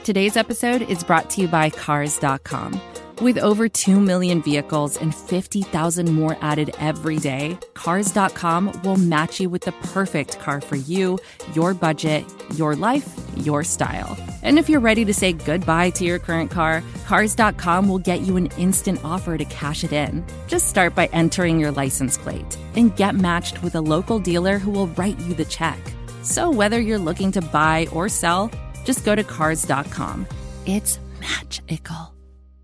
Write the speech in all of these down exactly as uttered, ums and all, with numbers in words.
Today's episode is brought to you by Cars dot com. With over two million vehicles and fifty thousand more added every day, Cars dot com will match you with the perfect car for you, your budget, your life, your style. And if you're ready to say goodbye to your current car, Cars dot com will get you an instant offer to cash it in. Just start by entering your license plate and get matched with a local dealer who will write you the check. So whether you're looking to buy or sell, just go to Cars dot com. It's magical.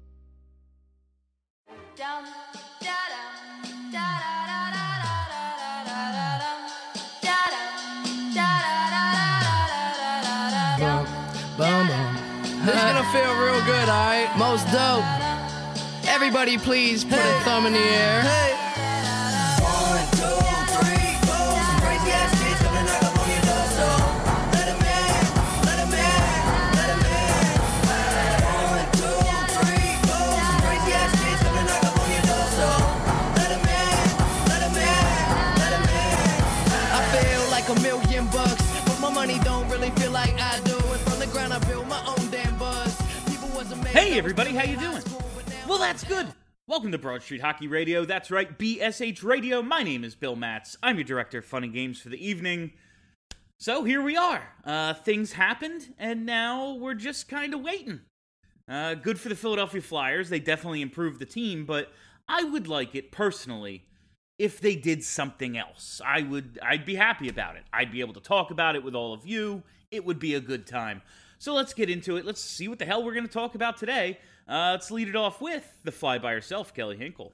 Boom, boom. This is gonna feel real good, alright? Most dope. Everybody please put hey. a thumb in the air. Hey. One, two, three, four. Some crazy ass kids coming knock up on your door, so let 'em in, let 'em in, let 'em in. One, two, three, four. Some crazy ass kids coming knock up on your door, so let 'em in, let 'em in, let 'em in. I feel like a million bucks, but my money don't really feel like I do. I built my own damn buzz. Hey everybody, how you doing? Well, that's good. Welcome to Broad Street Hockey Radio. That's right, B S H Radio. My name is Bill Matz. I'm your director of fun and games for the evening. So here we are. Uh, things happened, and now we're just kind of waiting. Uh, good for the Philadelphia Flyers. They definitely improved the team, but I would like it personally if they did something else. I would, I'd be happy about it. I'd be able to talk about it with all of you. It would be a good time. So let's get into it. Let's see what the hell we're going to talk about today. Uh, let's lead it off with the fly by herself, Kelly Hinkle.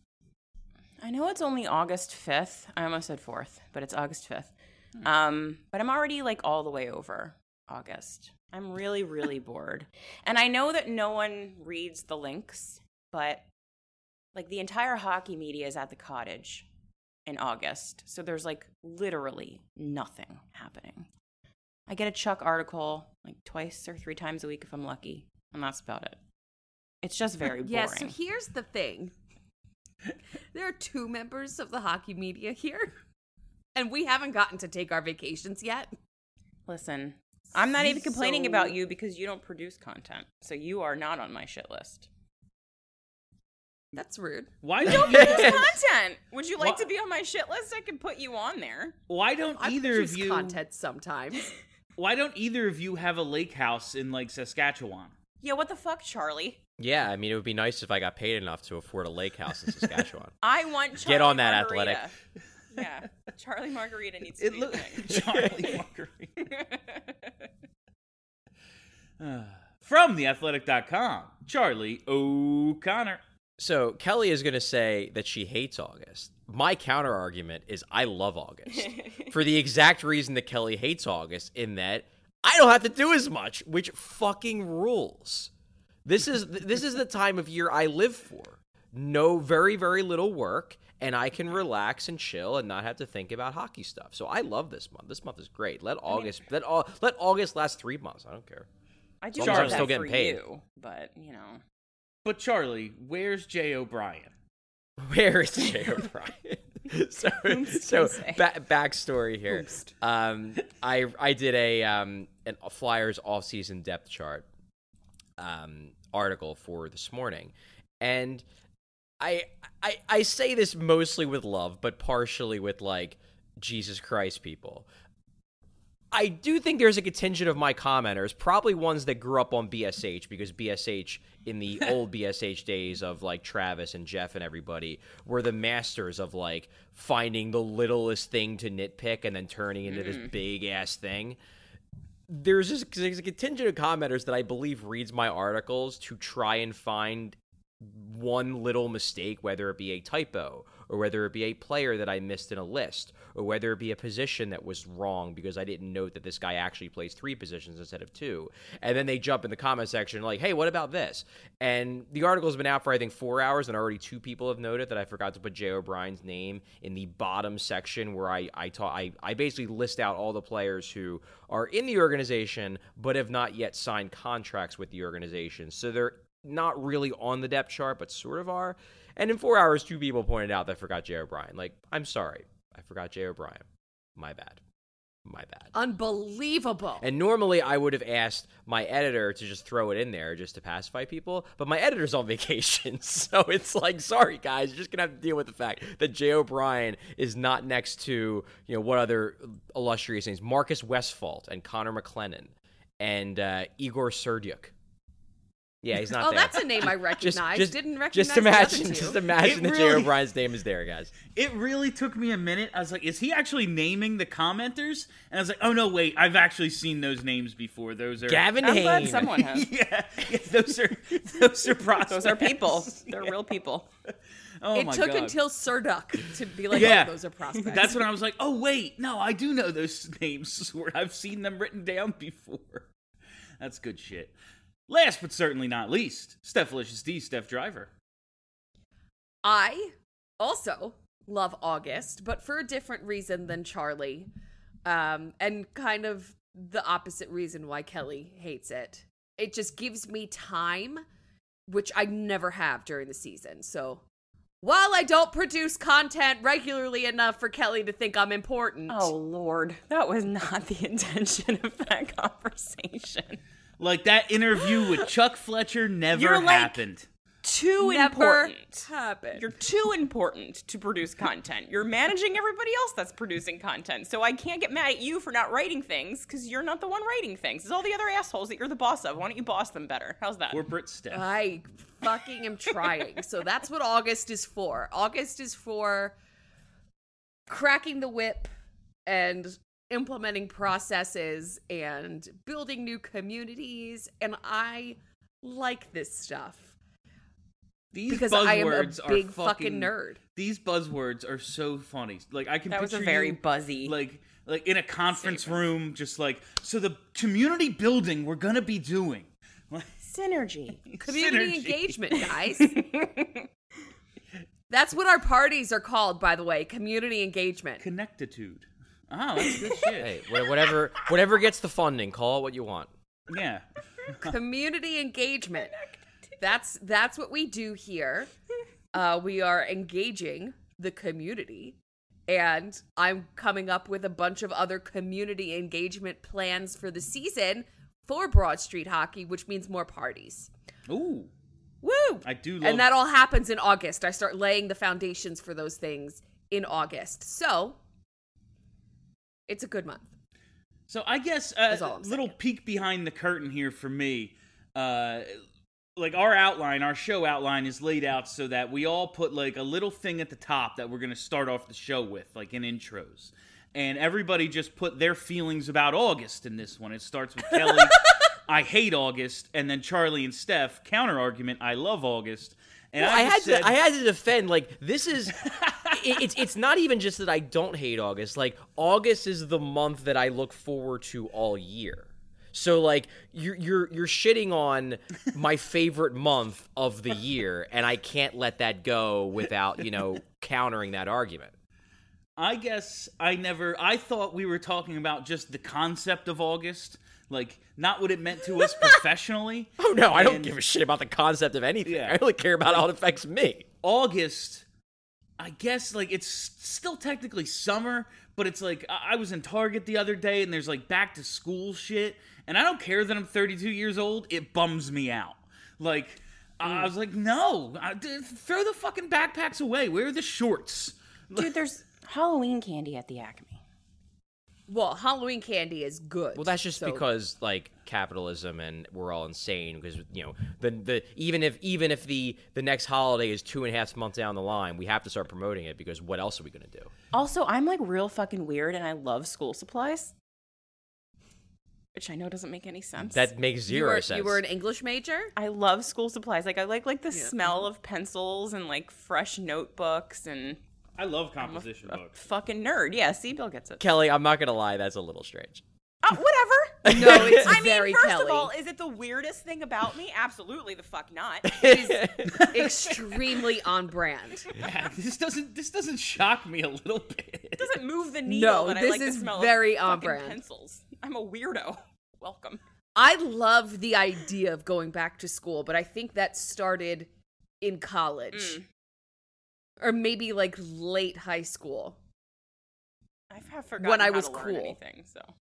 I know it's only August fifth. I almost said fourth, but it's August fifth. Hmm. Um, but I'm already like all the way over August. I'm really, really bored. And I know that no one reads the links, but like the entire hockey media is at the Cottage in August. So there's like literally nothing happening. I get a Chuck article like twice or three times a week if I'm lucky, and that's about it. It's just very boring. Yeah, so here's the thing. There are two members of the hockey media here, and we haven't gotten to take our vacations yet. Listen, I'm not even complaining so... about you because you don't produce content, so you are not on my shit list. That's rude. Why don't you produce content? Would you like Why? to be on my shit list? I can put you on there. Why don't I either of you content sometimes? Why don't either of you have a lake house in, like, Saskatchewan? Yeah, what the fuck, Charlie? Yeah, I mean, it would be nice if I got paid enough to afford a lake house in Saskatchewan. I want Charlie Get on that, Margarita. Athletic. Yeah, Charlie Margarita needs to it be lo- a thing. Charlie Margarita. uh, from the athletic dot com, Charlie O'Connor. So Kelly is going to say that she hates August. My counter argument is I love August for the exact reason that Kelly hates August, in that I don't have to do as much, which fucking rules. This is this is the time of year I live for. No, very, very little work, and I can relax and chill and not have to think about hockey stuff. So I love this month. This month is great. Let August I mean, let all let August last three months. I don't care. I do as love I'm that still getting for paid. you, but you know. But Charlie, where's Jay O'Brien? Where is Jay O'Brien? so, so ba- backstory here. Um, I I did a um an, a Flyers off-season depth chart um article for this morning, and I I I say this mostly with love, but partially with like Jesus Christ, people. I do think there's a contingent of my commenters, probably ones that grew up on B S H, because B S H in the old B S H days of like Travis and Jeff and everybody were the masters of like finding the littlest thing to nitpick and then turning into mm. this big ass thing. There's, this, there's a contingent of commenters that I believe reads my articles to try and find one little mistake, whether it be a typo or whether it be a player that I missed in a list, or whether it be a position that was wrong because I didn't note that this guy actually plays three positions instead of two. And then they jump in the comment section like, hey, what about this? And the article's been out for, I think, four hours, and already two people have noted that I forgot to put Jay O'Brien's name in the bottom section where I I, ta- I I basically list out all the players who are in the organization but have not yet signed contracts with the organization. So they're not really on the depth chart, but sort of are. And in four hours, two people pointed out that I forgot Jay O'Brien. Like, I'm sorry. I forgot Jay O'Brien. My bad. My bad. Unbelievable. And normally I would have asked my editor to just throw it in there just to pacify people, but my editor's on vacation, so it's like, sorry guys, you're just gonna have to deal with the fact that Jay O'Brien is not next to, you know, what other illustrious names, Marcus Westphalt and Connor McLennan and uh, Igor Serdyuk. Yeah, he's not oh, there. that's a name I recognize. Just, just, Didn't recognize just imagine, the other two. just imagine It that really- Jay O'Brien's name is there, guys. It really took me a minute. I was like, is he actually naming the commenters? And I was like, oh, no, wait. I've actually seen those names before. Those are... Gavin I'm glad Hain. someone has. yeah, yeah, those are those are prospects. Those are people. They're real people. Oh, It my took God. until Serduk to be like, Yeah. oh, those are prospects. That's when I was like, oh, wait. No, I do know those names. I've seen them written down before. That's good shit. Last but certainly not least, Stephalicious D, Steph Driver. I also love August, but for a different reason than Charlie. Um, and kind of the opposite reason why Kelly hates it. It just gives me time, which I never have during the season. So while I don't produce content regularly enough for Kelly to think I'm important. Oh, Lord. That was not the intention of that conversation. Like, that interview with Chuck Fletcher never You're like- happened. Too Never important. happened. You're too important to produce content. You're managing everybody else that's producing content. So I can't get mad at you for not writing things because you're not the one writing things. It's all the other assholes that you're the boss of. Why don't you boss them better? How's that? Corporate Steph. I fucking am trying. So that's what August is for. August is for cracking the whip and implementing processes and building new communities. And I like this stuff. These Because I am a buzzwords are big fucking nerd. These buzzwords are so funny. Like, I can That was picture a very you, buzzy like like in a conference room, just like, so the community building we're gonna be doing. Synergy. Community Synergy. engagement, guys. That's what our parties are called, by the way. Community engagement. Connectitude. Oh, that's good shit. Hey, wha- whatever, whatever gets the funding, call it what you want. Yeah. Community engagement. That's that's what we do here. Uh, we are engaging the community, and I'm coming up with a bunch of other community engagement plans for the season for Broad Street Hockey, which means more parties. Ooh. Woo! I do love And that all happens in August. I start laying the foundations for those things in August. So, it's a good month. So I guess a That's all I'm little saying. peek behind the curtain here for me. Uh, like our outline, our show outline is laid out so that we all put like a little thing at the top that we're going to start off the show with, like in intros. And everybody just put their feelings about August in this one. It starts with Kelly, I hate August, and then Charlie and Steph, counter argument, I love August. And Well, I, I had just said, to. I had to defend. Like this is. it, it's it's not even just that I don't hate August. Like August is the month that I look forward to all year. So like you're you're you're shitting on my favorite month of the year, and I can't let that go without you know countering that argument. I guess I never, I thought we were talking about just the concept of August, like not what it meant to us professionally. Oh no, I don't And give a shit about the concept of anything. Yeah. I only care about how it affects me. August, I guess, like, it's still technically summer, but it's like, I I was in Target the other day, and there's, like, back-to-school shit, and I don't care that I'm thirty-two years old, it bums me out. Like, I was like, no, I, d- throw the fucking backpacks away, wear the shorts. Dude, there's Halloween candy at the Acme. Well, Halloween candy is good. Well, that's just so- because like capitalism and we're all insane because you know the the even if even if the the next holiday is two and a half months down the line, we have to start promoting it because what else are we gonna do? Also, I'm like real fucking weird and I love school supplies. Which I know doesn't make any sense. That makes you zero were, sense. You were an English major? I love school supplies. Like I like like the smell of pencils and like fresh notebooks and I love I'm a, composition a books. fucking nerd. Yeah, see, Bill gets it. Kelly, I'm not gonna lie, that's a little strange. Uh, whatever. No, it's I very mean, first Kelly. of all, is it the weirdest thing about me? Absolutely the fuck not. Extremely on brand. Yeah, this doesn't, this doesn't shock me a little bit. It doesn't move the needle No, that I this like is the smell very of on fucking brand. pencils. I'm a weirdo. Welcome. I love the idea of going back to school, but I think that started in college. Mm. Or maybe like late high school. I forgot when I how was to learn cool. anything, so.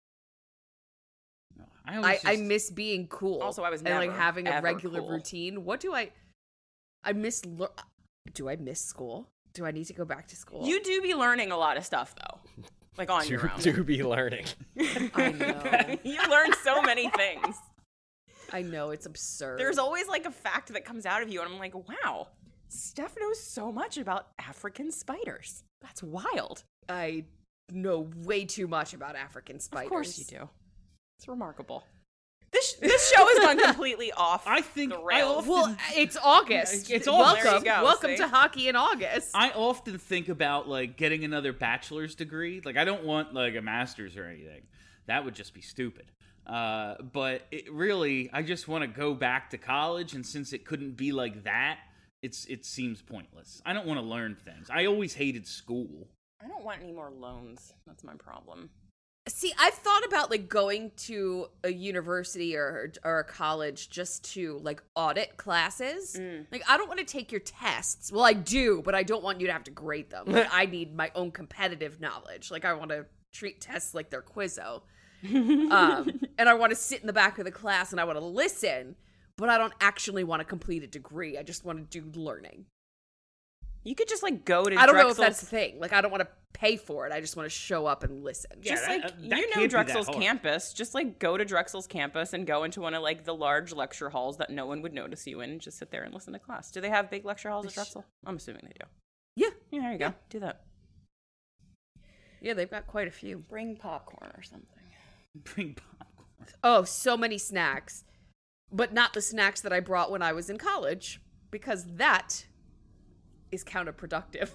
I, I, always I just, miss being cool. Also, I was and like never, having a ever regular cool. routine. What do I? I miss. lear- Do I miss school? Do I need to go back to school? You do be learning a lot of stuff, though. Like, on your Do, own. do be learning. I know. You learn so many things. I know, it's absurd. There's always, like, a fact that comes out of you, and I'm like, wow, Steph knows so much about African spiders. That's wild. I know way too much about African spiders. Of course you do. It's remarkable. This this show has gone completely off I think the I rails. often- Well, it's August. It's welcome. August. There you go, welcome see? to hockey in August. I often think about like getting another bachelor's degree. Like I don't want like a master's or anything. That would just be stupid. Uh, but it really, I just want to go back to college, and since it couldn't be like that, it's it seems pointless. I don't want to learn things. I always hated school. I don't want any more loans. That's my problem. See, I've thought about like going to a university or or a college just to like audit classes. Mm. Like I don't want to take your tests. Well, I do, but I don't want you to have to grade them. Like I need my own competitive knowledge. Like I want to treat tests like they're Quizzo. um, and I want to sit in the back of the class and I want to listen, but I don't actually want to complete a degree. I just want to do learning. You could just, like, go to I don't know if Drexel's- that's the thing. Like I don't want to pay for it. I just want to show up and listen. Yeah, Just that- like uh, that you can't know be that Drexel's hard. campus, just like go to Drexel's campus and go into one of like the large lecture halls that no one would notice you in and just sit there and listen to class. Do they have big lecture halls at Drexel? I'm assuming they do. Yeah. Yeah, there you go. Do that. Yeah, they've got quite a few. Bring popcorn or something. Bring popcorn. Oh, so many snacks. But not the snacks that I brought when I was in college, because that is counterproductive.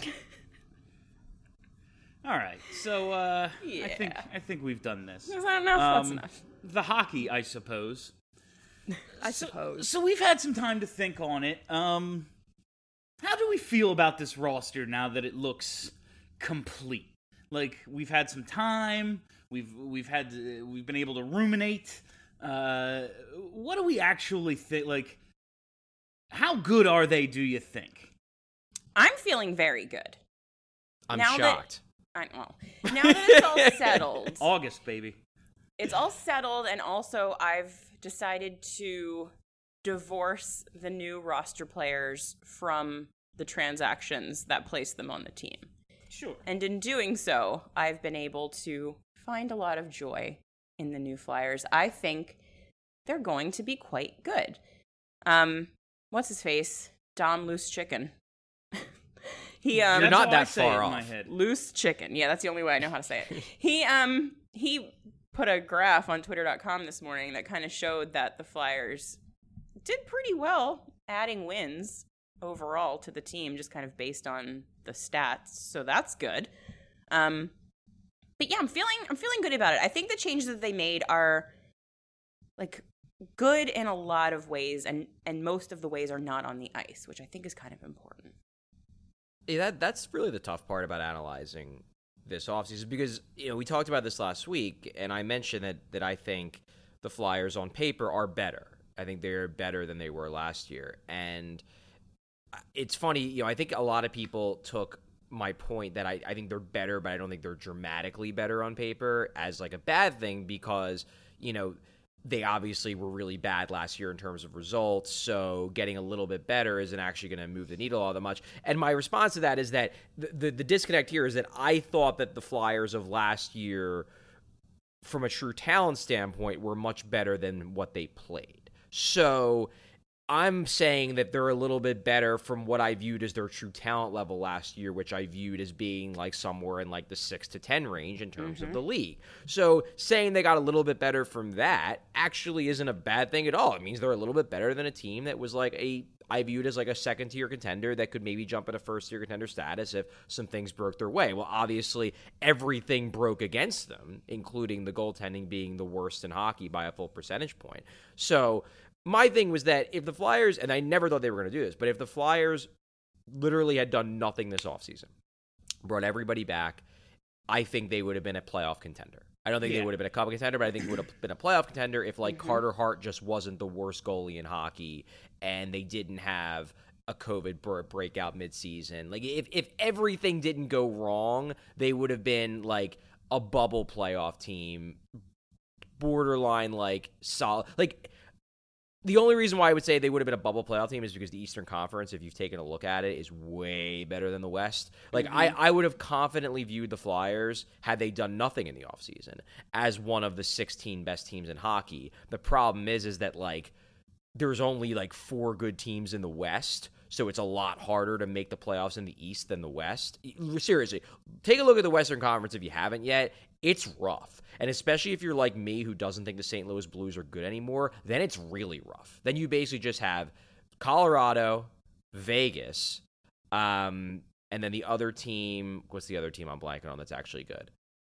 All right, so uh, I think Yeah. I think we've done this. Is that enough? That's Um, enough. The hockey, I suppose. I suppose. So we've had some time to think on it. Um, how do we feel about this roster now that it looks complete? Like we've had some time. We've we've had to, we've been able to ruminate. Uh, what do we actually think? Like, how good are they? Do you think? I'm feeling very good. I'm Now that- shocked. I well, now that it's all settled, August, baby. it's all settled, and also I've decided to divorce the new roster players from the transactions that place them on the team. Sure. And in doing so, I've been able to find a lot of joy in the new Flyers. I think they're going to be quite good. Um, what's his face? Dom Loose Chicken. he um You're That's not how I that say it far in my off. head. Loose Chicken. Yeah, that's the only way I know how to say it. He um he put a graph on twitter dot com this morning that kind of showed that the Flyers did pretty well adding wins overall to the team, just kind of based on the stats. So that's good. Um but yeah, I'm feeling I'm feeling good about it. I think the changes that they made are like good in a lot of ways, and and most of the ways are not on the ice, which I think is kind of important. Yeah, that that's really the tough part about analyzing this offseason, because you know we talked about this last week, and I mentioned that that I think the Flyers on paper are better. I think they're better than they were last year, and it's funny. You know, I think a lot of people took my point that I, I think they're better, but I don't think they're dramatically better on paper as like a bad thing, because you know they obviously were really bad last year in terms of results, so getting a little bit better isn't actually going to move the needle all that much. And my response to that is that the, the the disconnect here is that I thought that the Flyers of last year, from a true talent standpoint, were much better than what they played. So I'm saying that they're a little bit better from what I viewed as their true talent level last year, which I viewed as being like somewhere in like the six to ten range in terms mm-hmm. of the league. So saying they got a little bit better from that actually isn't a bad thing at all. It means they're a little bit better than a team that was like a, I viewed as like a second tier contender that could maybe jump into first tier contender status if some things broke their way. Well, obviously everything broke against them, including the goaltending being the worst in hockey by a full percentage point. So my thing was that if the Flyers, and I never thought they were going to do this, but if the Flyers literally had done nothing this offseason, brought everybody back, I think they would have been a playoff contender. I don't think Yeah. they would have been a cup contender, but I think it would have been a playoff contender if, like, Mm-hmm. Carter Hart just wasn't the worst goalie in hockey and they didn't have a COVID br- breakout midseason. Like if if everything didn't go wrong, they would have been like a bubble playoff team, borderline like solid. Like the only reason why I would say they would have been a bubble playoff team is because the Eastern Conference, if you've taken a look at it, is way better than the West. Like mm-hmm. I, I would have confidently viewed the Flyers, had they done nothing in the offseason, as one of the sixteen best teams in hockey. The problem is, is that like there's only like four good teams in the West, so it's a lot harder to make the playoffs in the East than the West. Seriously, take a look at the Western Conference if you haven't yet. It's rough. And especially if you're like me who doesn't think the Saint Louis Blues are good anymore, then it's really rough. Then you basically just have Colorado, Vegas, um, and then the other team, what's the other team I'm blanking on that's actually good?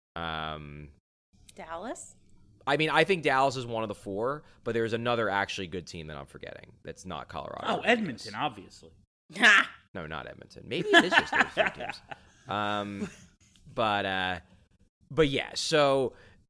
Um, Dallas? I mean, I think Dallas is one of the four, but there's another actually good team that I'm forgetting that's not Colorado. Oh, Edmonton, obviously. No, not Edmonton. Maybe it is just those three teams. Um, but, uh, but yeah, so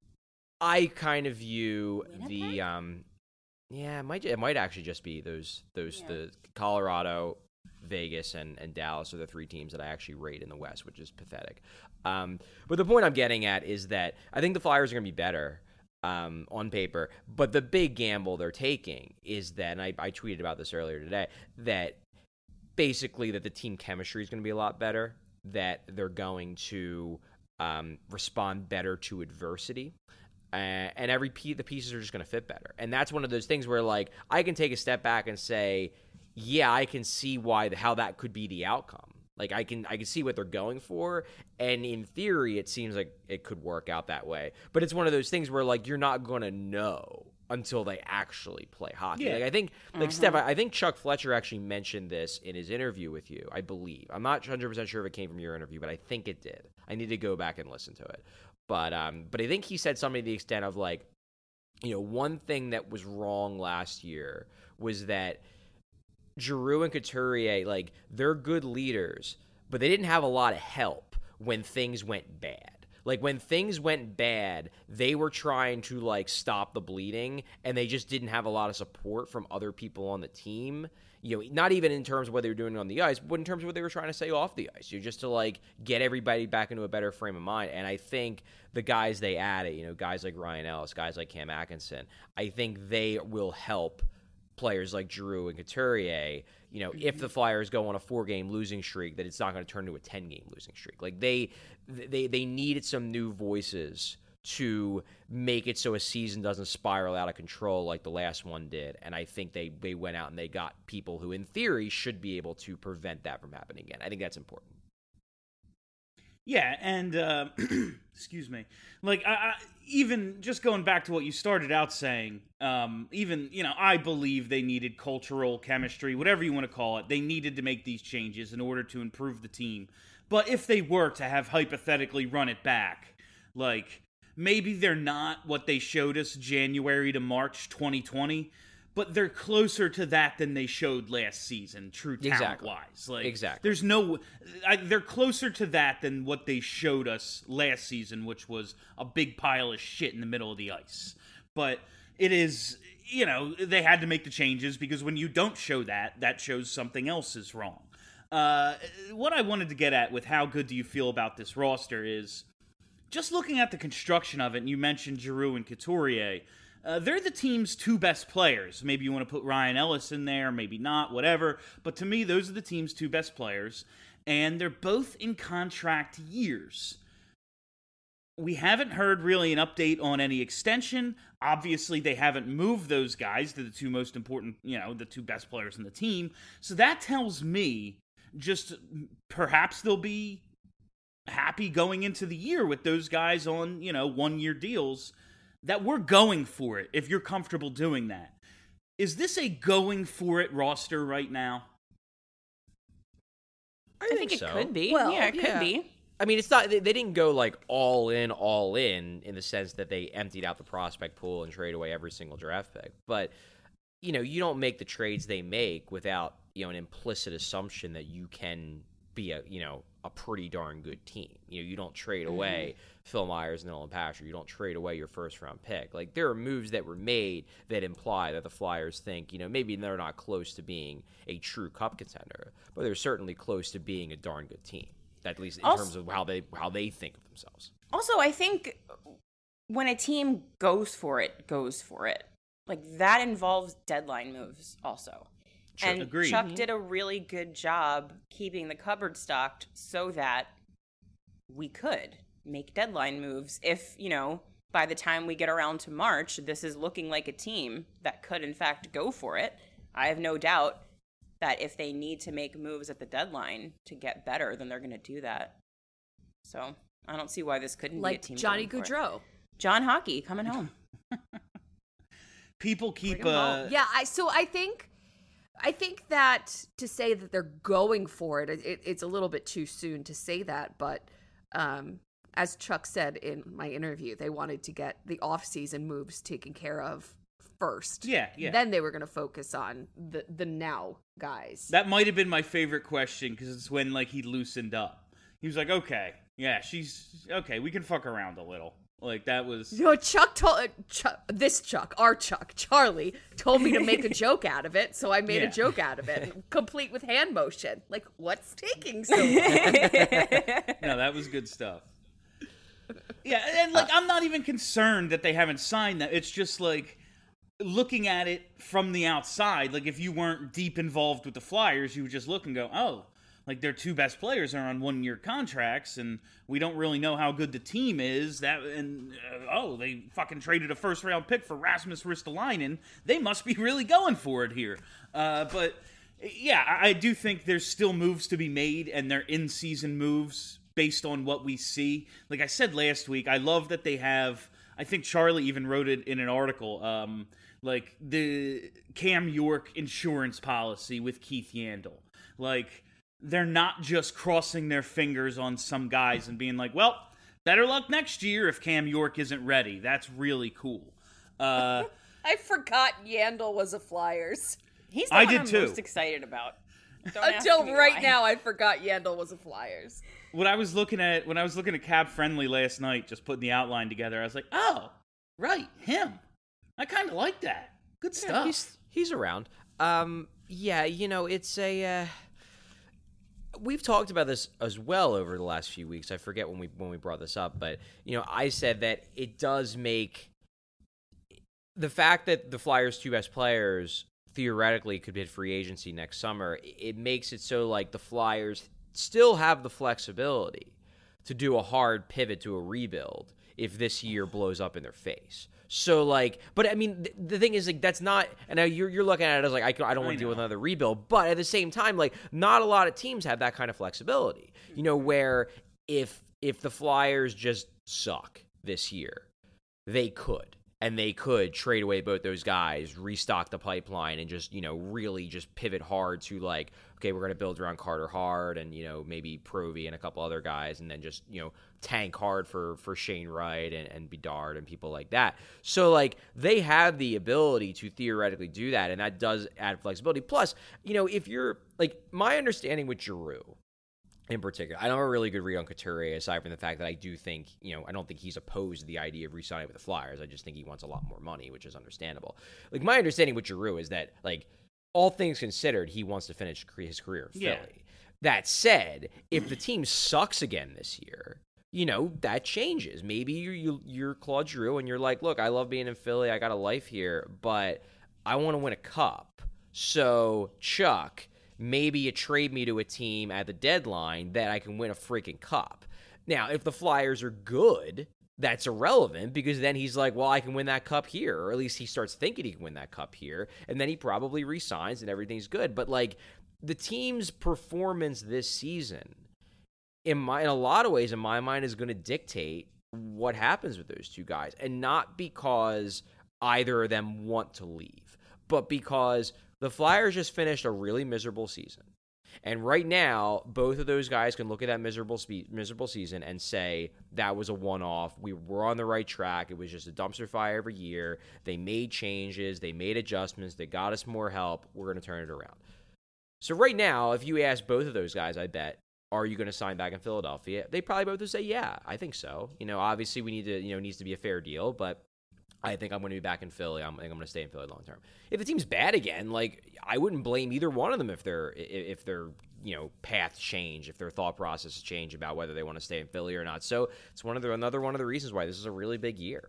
I kind of view Winnipeg? the, um, yeah, it might, it might actually just be those, those, Yeah. the Colorado, Vegas, and, and Dallas are the three teams that I actually rate in the West, which is pathetic. Um, but the point I'm getting at is that I think the Flyers are going to be better. Um, on paper, but the big gamble they're taking is that, and I, I tweeted about this earlier today, that basically that the team chemistry is going to be a lot better, that they're going to um, respond better to adversity, uh, and every piece, the pieces are just going to fit better. And that's one of those things where, like, I can take a step back and say, yeah, I can see why the, how that could be the outcome. Like I can I can see what they're going for, and in theory it seems like it could work out that way. But it's one of those things where like you're not going to know until they actually play hockey. Yeah. Like I think like Mm-hmm. Steph, I think Chuck Fletcher actually mentioned this in his interview with you, I believe. I'm not one hundred percent sure if it came from your interview, but I think it did. I need to go back and listen to it. But um but I think he said something to the extent of like, you know, one thing that was wrong last year was that Giroux and Couturier, like, they're good leaders, but they didn't have a lot of help when things went bad. Like, when things went bad, they were trying to, like, stop the bleeding, and they just didn't have a lot of support from other people on the team. You know, not even in terms of what they were doing on the ice, but in terms of what they were trying to say off the ice. You know, just to, like, get everybody back into a better frame of mind. And I think the guys they added, you know, guys like Ryan Ellis, guys like Cam Atkinson, I think they will help players like Giroux and Couturier, you know, if the Flyers go on a four-game losing streak, that it's not going to turn into a ten-game losing streak. Like, they they they needed some new voices to make it so a season doesn't spiral out of control like the last one did. And I think they, they went out and they got people who, in theory, should be able to prevent that from happening again. I think that's important. Yeah, and uh, excuse me, like I, I, even just going back to what you started out saying, um, even you know, I believe they needed cultural chemistry, whatever you want to call it. They needed to make these changes in order to improve the team. But if they were to have hypothetically run it back, like maybe they're not what they showed us January to March twenty twenty. But they're closer to that than they showed last season, true talent-wise. Exactly. Like, exactly. There's no... I, they're closer to that than what they showed us last season, which was a big pile of shit in the middle of the ice. But it is... You know, they had to make the changes because when you don't show that, that shows something else is wrong. Uh, what I wanted to get at with how good do you feel about this roster is just looking at the construction of it, and you mentioned Giroux and Couturier... Uh, they're the team's two best players. Maybe you want to put Ryan Ellis in there, maybe not, whatever. But to me, those are the team's two best players. And they're both in contract years. We haven't heard really an update on any extension. Obviously, they haven't moved those guys to the two most important, you know, the two best players in the team. So that tells me just perhaps they'll be happy going into the year with those guys on, you know, one-year deals. That we're going for it, if you're comfortable doing that. Is this a going for it roster right now? I, I think, think it so. could be. Well, yeah, it yeah. could be. I mean, it's not. They, they didn't go like all in, all in, in the sense that they emptied out the prospect pool and traded away every single draft pick. But you know, you don't make the trades they make without you know an implicit assumption that you can be a, you know, a pretty darn good team. You know, you don't trade away mm-hmm. Phil Myers and Nolan Pasher. You don't trade away your first round pick. Like, there are moves that were made that imply that the Flyers think, you know, maybe they're not close to being a true cup contender, but they're certainly close to being a darn good team, at least in also, terms of how they how they think of themselves. Also, I think when a team goes for it, goes for it. Like, that involves deadline moves also. Sure, and agreed. Chuck did a really good job keeping the cupboard stocked so that we could make deadline moves if, you know, by the time we get around to March, this is looking like a team that could, in fact, go for it. I have no doubt that if they need to make moves at the deadline to get better, then they're going to do that. So I don't see why this couldn't like be a team. Johnny Gaudreau. John Hockey coming home. People keep... Uh... Yeah, I so I think... I think that to say that they're going for it, it, it's a little bit too soon to say that. But um, as Chuck said in my interview, they wanted to get the off-season moves taken care of first. Yeah, yeah. Then they were going to focus on the, the now guys. That might have been my favorite question because it's when, like, he loosened up. He was like, okay, yeah, she's... Okay, we can fuck around a little. Like, that was... You know, Chuck told... Uh, Chuck, this Chuck, our Chuck, Charlie, told me to make a joke out of it, so I made yeah. a joke out of it, complete with hand motion. Like, what's taking so long? No, that was good stuff. Yeah, and, like, I'm not even concerned that they haven't signed that. It's just, like, looking at it from the outside, like, if you weren't deep involved with the Flyers, you would just look and go, oh... Like, their two best players are on one-year contracts, and we don't really know how good the team is. That and uh, oh, they fucking traded a first-round pick for Rasmus Ristolainen. They must be really going for it here. Uh, but yeah, I, I do think there's still moves to be made, and they're in-season moves based on what we see. Like I said last week, I love that they have. I think Charlie even wrote it in an article. Um, like the Cam York insurance policy with Keith Yandel, like. They're not just crossing their fingers on some guys and being like, well, better luck next year if Cam York isn't ready. That's really cool. Uh, I forgot Yandel was a Flyers. He's the I one did I'm too. most excited about. Don't Until right why. now, I forgot Yandel was a Flyers. When I was looking at when I was looking at Cap Friendly last night, just putting the outline together, I was like, oh, right, him. I kind of like that. Good stuff. Yeah, he's, he's around. Um, yeah, you know, it's a... Uh... We've talked about this as well over the last few weeks. I forget when we when we brought this up, but you know, I said that it does make the fact that the Flyers' two best players theoretically could hit free agency next summer. It makes it so like the Flyers still have the flexibility to do a hard pivot to a rebuild if this year blows up in their face. So, like, but I mean, th- the thing is, like, that's not, and now you're, you're looking at it as, like, I, I don't want to deal with another rebuild, but at the same time, like, not a lot of teams have that kind of flexibility, you know, where if, if the Flyers just suck this year, they could, and they could trade away both those guys, restock the pipeline, and just, you know, really just pivot hard to, like, okay, we're going to build around Carter Hart and, you know, maybe Provy and a couple other guys, and then just, you know, tank hard for, for Shane Wright and, and Bedard and people like that. So, like, they have the ability to theoretically do that, and that does add flexibility. Plus, you know, if you're, like, my understanding with Giroux in particular, I don't have a really good read on Couturier, aside from the fact that I do think, you know, I don't think he's opposed to the idea of re-signing with the Flyers. I just think he wants a lot more money, which is understandable. Like, my understanding with Giroux is that, like, all things considered, he wants to finish his career in Philly. Yeah. That said, if the team sucks again this year, you know, that changes. Maybe you're, you, you're Claude Giroux and you're like, look, I love being in Philly. I got a life here, but I want to win a cup. So, Chuck, maybe you trade me to a team at the deadline that I can win a freaking cup. Now, if the Flyers are good, that's irrelevant because then he's like, well, I can win that cup here, or at least he starts thinking he can win that cup here, and then he probably resigns and everything's good. But, like, the team's performance this season, in my in a lot of ways, in my mind, is going to dictate what happens with those two guys, and not because either of them want to leave, but because the Flyers just finished a really miserable season. And right now, both of those guys can look at that miserable spe- miserable season and say, that was a one-off. We were on the right track. It was just a dumpster fire every year. They made changes. They made adjustments. They got us more help. We're going to turn it around. So right now, if you ask both of those guys, I bet, are you going to sign back in Philadelphia? They probably both would say, yeah, I think so. You know, obviously we need to, you know, it needs to be a fair deal, but I think I'm going to be back in Philly. I'm, I think I'm going to stay in Philly long term. If the team's bad again, like I wouldn't blame either one of them if their if their you know paths change, if their thought processes change about whether they want to stay in Philly or not. So it's one of the another one of the reasons why this is a really big year.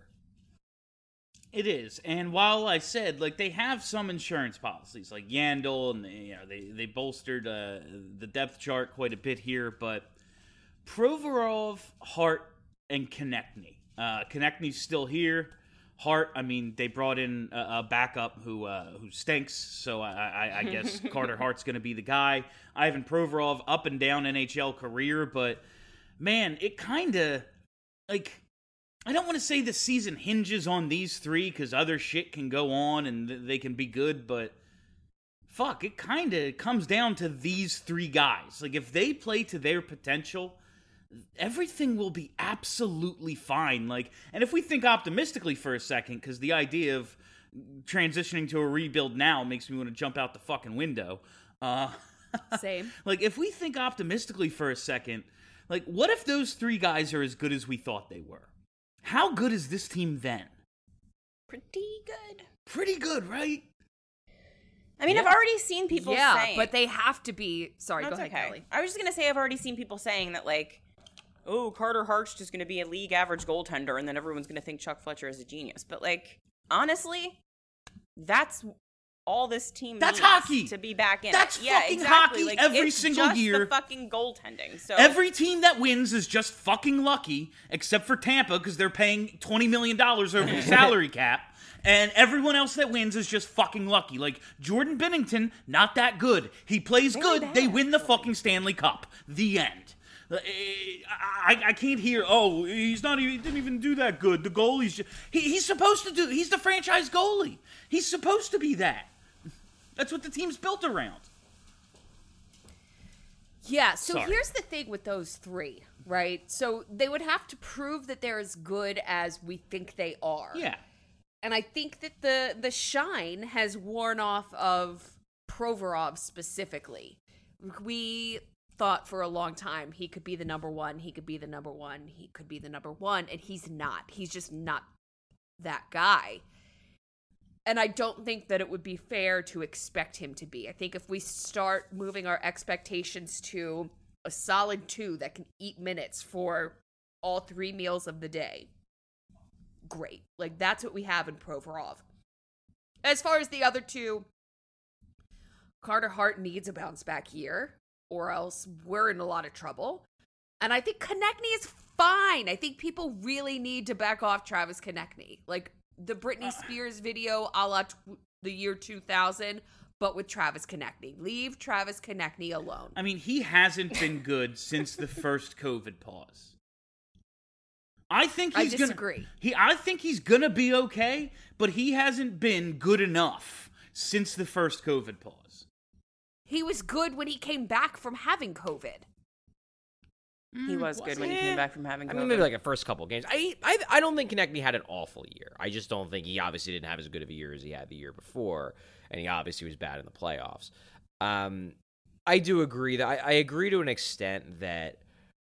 It is, and while I said like they have some insurance policies, like Yandel, and you know they they bolstered uh, the depth chart quite a bit here, but Provorov, Hart, and Konechny. Uh, Konechny's still here. Hart, I mean, they brought in a, a backup who uh, who stinks, so I, I, I guess Carter Hart's going to be the guy. Ivan Provorov, up and down N H L career, but man, it kind of like. I don't want to say the season hinges on these three because other shit can go on and th- they can be good, but fuck, it kind of comes down to these three guys. Like, if they play to their potential, everything will be absolutely fine. Like, and if we think optimistically for a second, because the idea of transitioning to a rebuild now makes me want to jump out the fucking window. Uh, Same. Like, if we think optimistically for a second, like, what if those three guys are as good as we thought they were? How good is this team then? Pretty good. Pretty good, right? I mean, Yeah. I've already seen people yeah, saying... but they have to be. Sorry, No, go it's ahead, okay. Kelly. I was just going to say I've already seen people saying that, like, oh, Carter Hart's just going to be a league average goaltender, and then everyone's going to think Chuck Fletcher is a genius. But, like, honestly, that's all this team That's needs hockey. to be back in That's it. Yeah, fucking exactly. hockey Like, every it's single just year. the fucking goaltending. So Every team that wins is just fucking lucky, except for Tampa, because they're paying twenty million dollars over the salary cap. And everyone else that wins is just fucking lucky. Like, Jordan Binnington, not that good. He plays Very good. bad, They win the actually. fucking Stanley Cup. The end. Uh, I, I can't hear, oh, he's not even, he didn't even do that good. The goalie's just, he, he's supposed to do, he's the franchise goalie. He's supposed to be that. That's what the team's built around. Yeah, so Sorry. here's the thing with those three, right? So they would have to prove that they're as good as we think they are. Yeah. And I think that the the shine has worn off of Provorov specifically. We thought for a long time he could be the number one, he could be the number one, he could be the number one, and he's not. He's just not that guy. And I don't think that it would be fair to expect him to be. I think if we start moving our expectations to a solid two that can eat minutes for all three meals of the day, great. Like, that's what we have in Provorov. As far as the other two, Carter Hart needs a bounce back year, or else we're in a lot of trouble. And I think Konechny is fine. I think people really need to back off Travis Konechny. Like, the Britney Spears video a la t- the year two thousand, but with Travis Konechny. Leave Travis Konechny alone. I mean, he hasn't been good since the first COVID pause. I think I he's disagree. gonna. He, I think he's gonna be okay, but he hasn't been good enough since the first COVID pause. He was good when he came back from having COVID. he was good when he came back from having I COVID. mean, maybe like the first couple games. I, I I don't think Konechny had an awful year. I just don't think he obviously didn't have as good of a year as he had the year before, and he obviously was bad in the playoffs. Um, I do agree that I, I agree to an extent that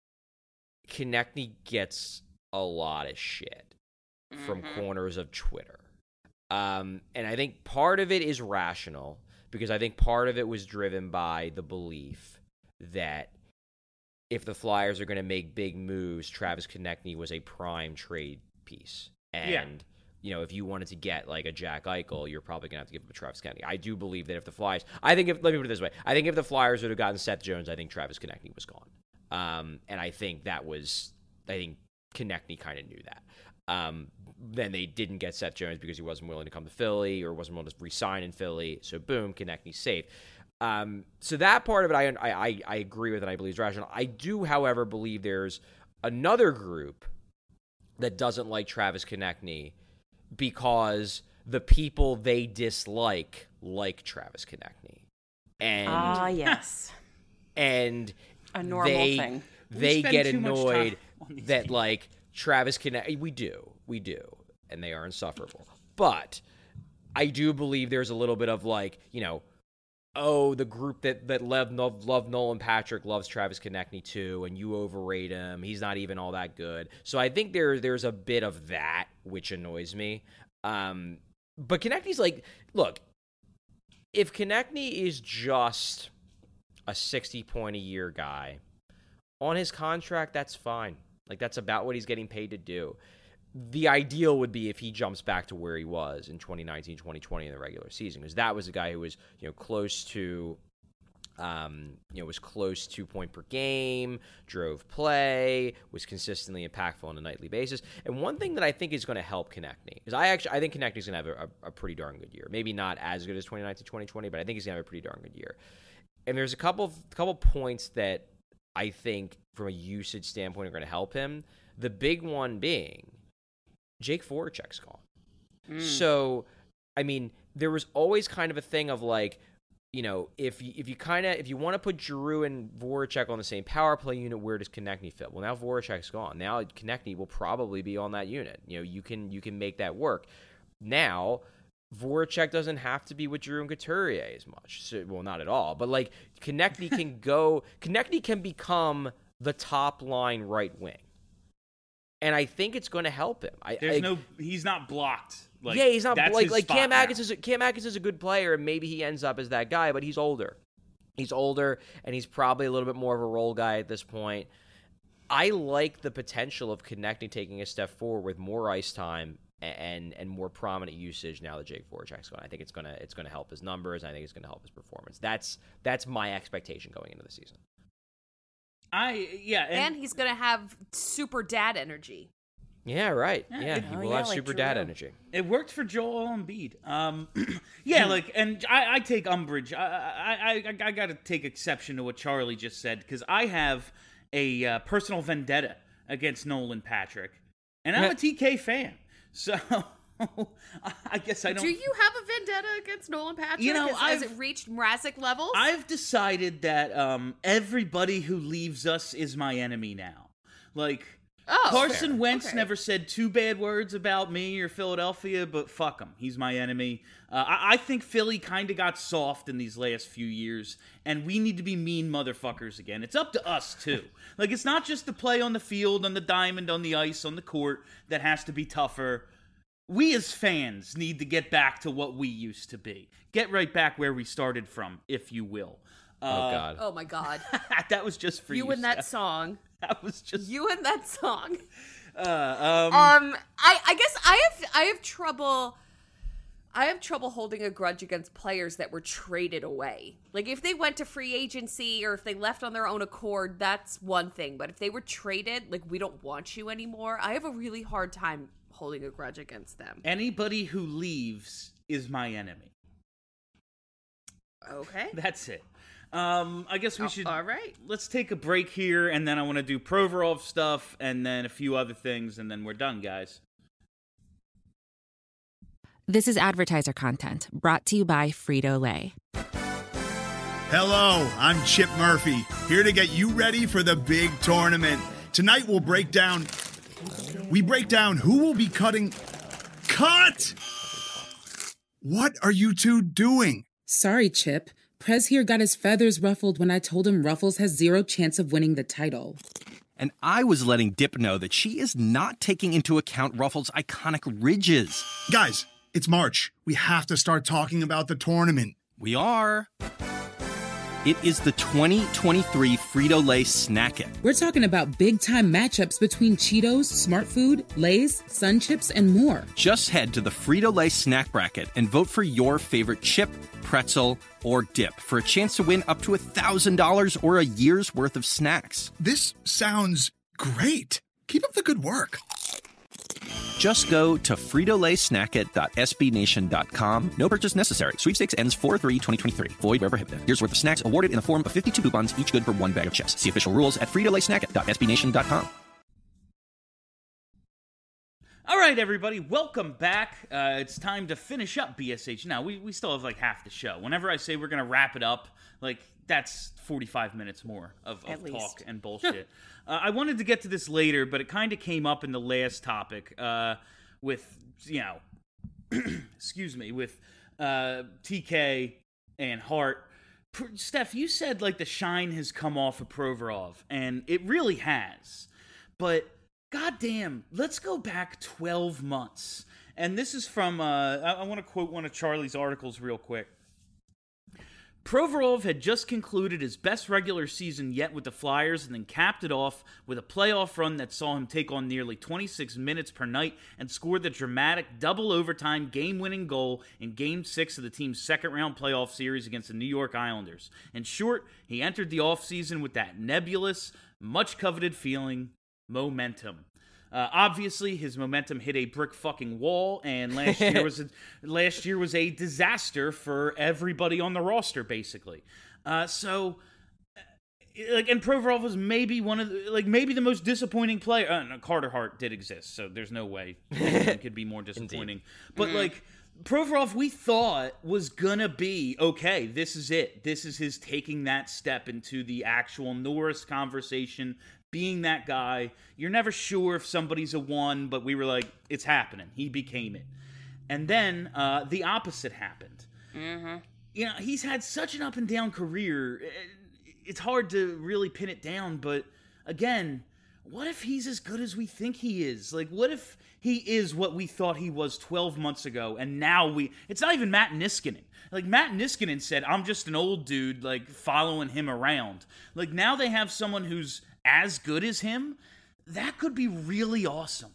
Konechny gets a lot of shit from Mhm. corners of Twitter, um, and I think part of it is rational because I think part of it was driven by the belief that if the Flyers are going to make big moves, Travis Konechny was a prime trade piece. And, Yeah. you know, if you wanted to get like a Jack Eichel, you're probably going to have to give him a Travis Konechny. I do believe that if the Flyers, I think if, let me put it this way, I think if the Flyers would have gotten Seth Jones, I think Travis Konechny was gone. Um, and I think that was, I think Konechny kind of knew that. Um, then they didn't get Seth Jones because he wasn't willing to come to Philly or wasn't willing to re-sign in Philly. So boom, Konechny's safe. Um, so that part of it, I, I I agree with and I believe is rational. I do, however, believe there's another group that doesn't like Travis Konechny because the people they dislike like Travis Konechny. And Ah, yes. and A normal they, thing. They spend get too much time annoyed on these that things. like Travis Konechny. We do, we do, and they are insufferable. But I do believe there's a little bit of like, you know, oh, the group that that love, love, love Nolan Patrick loves Travis Konechny too, and you overrate him. He's not even all that good. So I think there there's a bit of that, which annoys me. Um, but Konechny's like, look, if Konechny is just a sixty point a year guy on his contract, that's fine. Like, that's about what he's getting paid to do. The ideal would be if he jumps back to where he was in twenty nineteen, twenty twenty in the regular season, because that was a guy who was, you know, close to, um, you know, was close to point per game, drove play, was consistently impactful on a nightly basis. And one thing that I think is going to help Konechny is I actually I think Konechny's going to have a, a, a pretty darn good year. Maybe not as good as twenty nineteen, twenty twenty, but I think he's going to have a pretty darn good year. And there's a couple of, couple points that I think from a usage standpoint are going to help him. The big one being Jake Voracek's gone. Mm. So, I mean, there was always kind of a thing of like, you know, if you, if you kind of, if you want to put Giroux and Voracek on the same power play unit, where does Konechny fit? Well, now Voracek's gone. Now Konechny will probably be on that unit. You know, you can, you can make that work. Now, Voracek doesn't have to be with Giroux and Couturier as much. So, well, not at all. But, like, Konechny can go, Konechny can become the top line right wing. And I think it's going to help him. I, There's I, no, he's not blocked. Like, yeah, he's not that's like his like spot Cam now. Atkins is a, Cam Atkins is a good player, and maybe he ends up as that guy, but he's older. He's older, and he's probably a little bit more of a role guy at this point. I like the potential of Konechny taking a step forward with more ice time and and more prominent usage now that Jake Voracek's gone. I think it's gonna it's gonna help his numbers. I think it's gonna help his performance. That's that's my expectation going into the season. I yeah, and, And he's gonna have super dad energy. Yeah, right. Yeah, Yeah, it- he Oh, will yeah, have like super Drew. dad energy. it worked for Joel Embiid. Um, yeah, like, and I, I take umbrage. I I I, I got to take exception to what Charlie just said because I have a uh, personal vendetta against Nolan Patrick, and I'm Yeah. a T K fan. So I guess I don't. Do you have a vendetta against Nolan Patrick? You know, has, has I've- it reached Mrazek levels? I've decided that um, everybody who leaves us is my enemy now. Like, Oh, Carson fair. Wentz Okay. never said two bad words about me or Philadelphia, but fuck him. He's my enemy. Uh, I-, I think Philly kind of got soft in these last few years, and we need to be mean motherfuckers again. It's up to us, too. Like, it's not just the play on the field, on the diamond, on the ice, on the court that has to be tougher. We as fans need to get back to what we used to be. Get right back where we started from, if you will. Oh Uh, God. Oh my God! that was just for you. You and that Steph. song. That was just. You and that song. Uh, um, Um, I I guess I have I have trouble. I have trouble holding a grudge against players that were traded away. Like, if they went to free agency or if they left on their own accord, that's one thing. But if they were traded, like, we don't want you anymore, I have a really hard time holding a grudge against them. Anybody who leaves is my enemy. Okay. That's it. Um, I guess we Oh, should. all right. Let's take a break here, and then I want to do Provorov stuff, and then a few other things, and then we're done, guys. This is advertiser content brought to you by Frito-Lay. Hello, I'm Chip Murphy, here to get you ready for the big tournament. Tonight we'll break down... We break down who will be cutting... Cut! What are you two doing? Sorry, Chip. Prez here got his feathers ruffled when I told him Ruffles has zero chance of winning the title. And I was letting Dip know that she is not taking into account Ruffles' iconic ridges. Guys, it's March. We have to start talking about the tournament. We are. It is the twenty twenty-three Frito-Lay Snack It. We're talking about big-time matchups between Cheetos, Smart Food, Lay's, Sun Chips, and more. Just head to the Frito-Lay Snack Bracket and vote for your favorite chip, pretzel, or dip for a chance to win up to one thousand dollars or a year's worth of snacks. This sounds great. Keep up the good work. Just go to Frito Lay Snack It dot S B Nation dot com. No purchase necessary. Sweepstakes ends four three twenty twenty-three. Void where prohibited. Here's worth of snacks awarded in the form of fifty-two coupons, each good for one bag of chips. See official rules at Frito Lay Snack It dot S B Nation dot com. All right, everybody, welcome back. Uh, it's time to finish up B S H. Now, we, we still have like half the show. Whenever I say we're going to wrap it up, like, that's forty-five minutes more of, of At talk least. and bullshit. uh, I wanted to get to this later, but it kind of came up in the last topic uh, with, you know, excuse me, with uh, T K and Hart Steph, you said like the shine has come off of Provorov, and it really has. But goddamn, let's go back twelve months. And this is from, uh, I, I want to quote one of Charlie's articles real quick. Provorov had just concluded his best regular season yet with the Flyers and then capped it off with a playoff run that saw him take on nearly twenty-six minutes per night and score the dramatic double overtime game-winning goal in Game six of the team's second-round playoff series against the New York Islanders. In short, he entered the offseason with that nebulous, much-coveted feeling, momentum. Uh, obviously, his momentum hit a brick fucking wall, and last year was a, last year was a disaster for everybody on the roster, basically. Uh, so, like, and Provorov was maybe one of the, like maybe the most disappointing player. Uh, no, Carter Hart did exist, so there's no way it could be more disappointing. But mm. like Provorov, we thought was gonna be okay. This is it. This is his taking that step into the actual Norris conversation. Being that guy, you're never sure if somebody's a one, but we were like, it's happening. He became it. And then uh, the opposite happened. Mm-hmm. You know, he's had such an up and down career. It's hard to really pin it down, but again, what if he's as good as we think he is? Like, what if he is what we thought he was twelve months ago, and now we... It's not even Matt Niskanen. Like, Matt Niskanen said, I'm just an old dude, like, following him around. Like, now they have someone who's as good as him. That could be really awesome.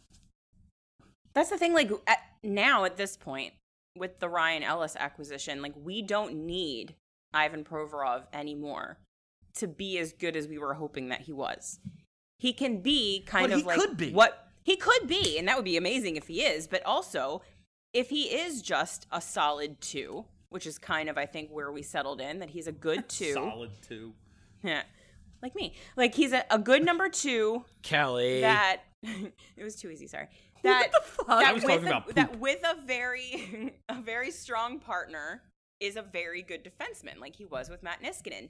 That's the thing, like, at, now at this point, with the Ryan Ellis acquisition, like, we don't need Ivan Provorov anymore to be as good as we were hoping that he was. He can be kind but of like could be. what he could be, and that would be amazing if he is, but also if he is just a solid two, which is kind of, I think, where we settled in, that he's a good two. Solid two. Yeah. Like me. Like, he's a, a good number two. Kelly. That, it was too easy, sorry. That, what the fuck? That I was talking a, about poop. That with a very, a very strong partner is a very good defenseman, like he was with Matt Niskanen.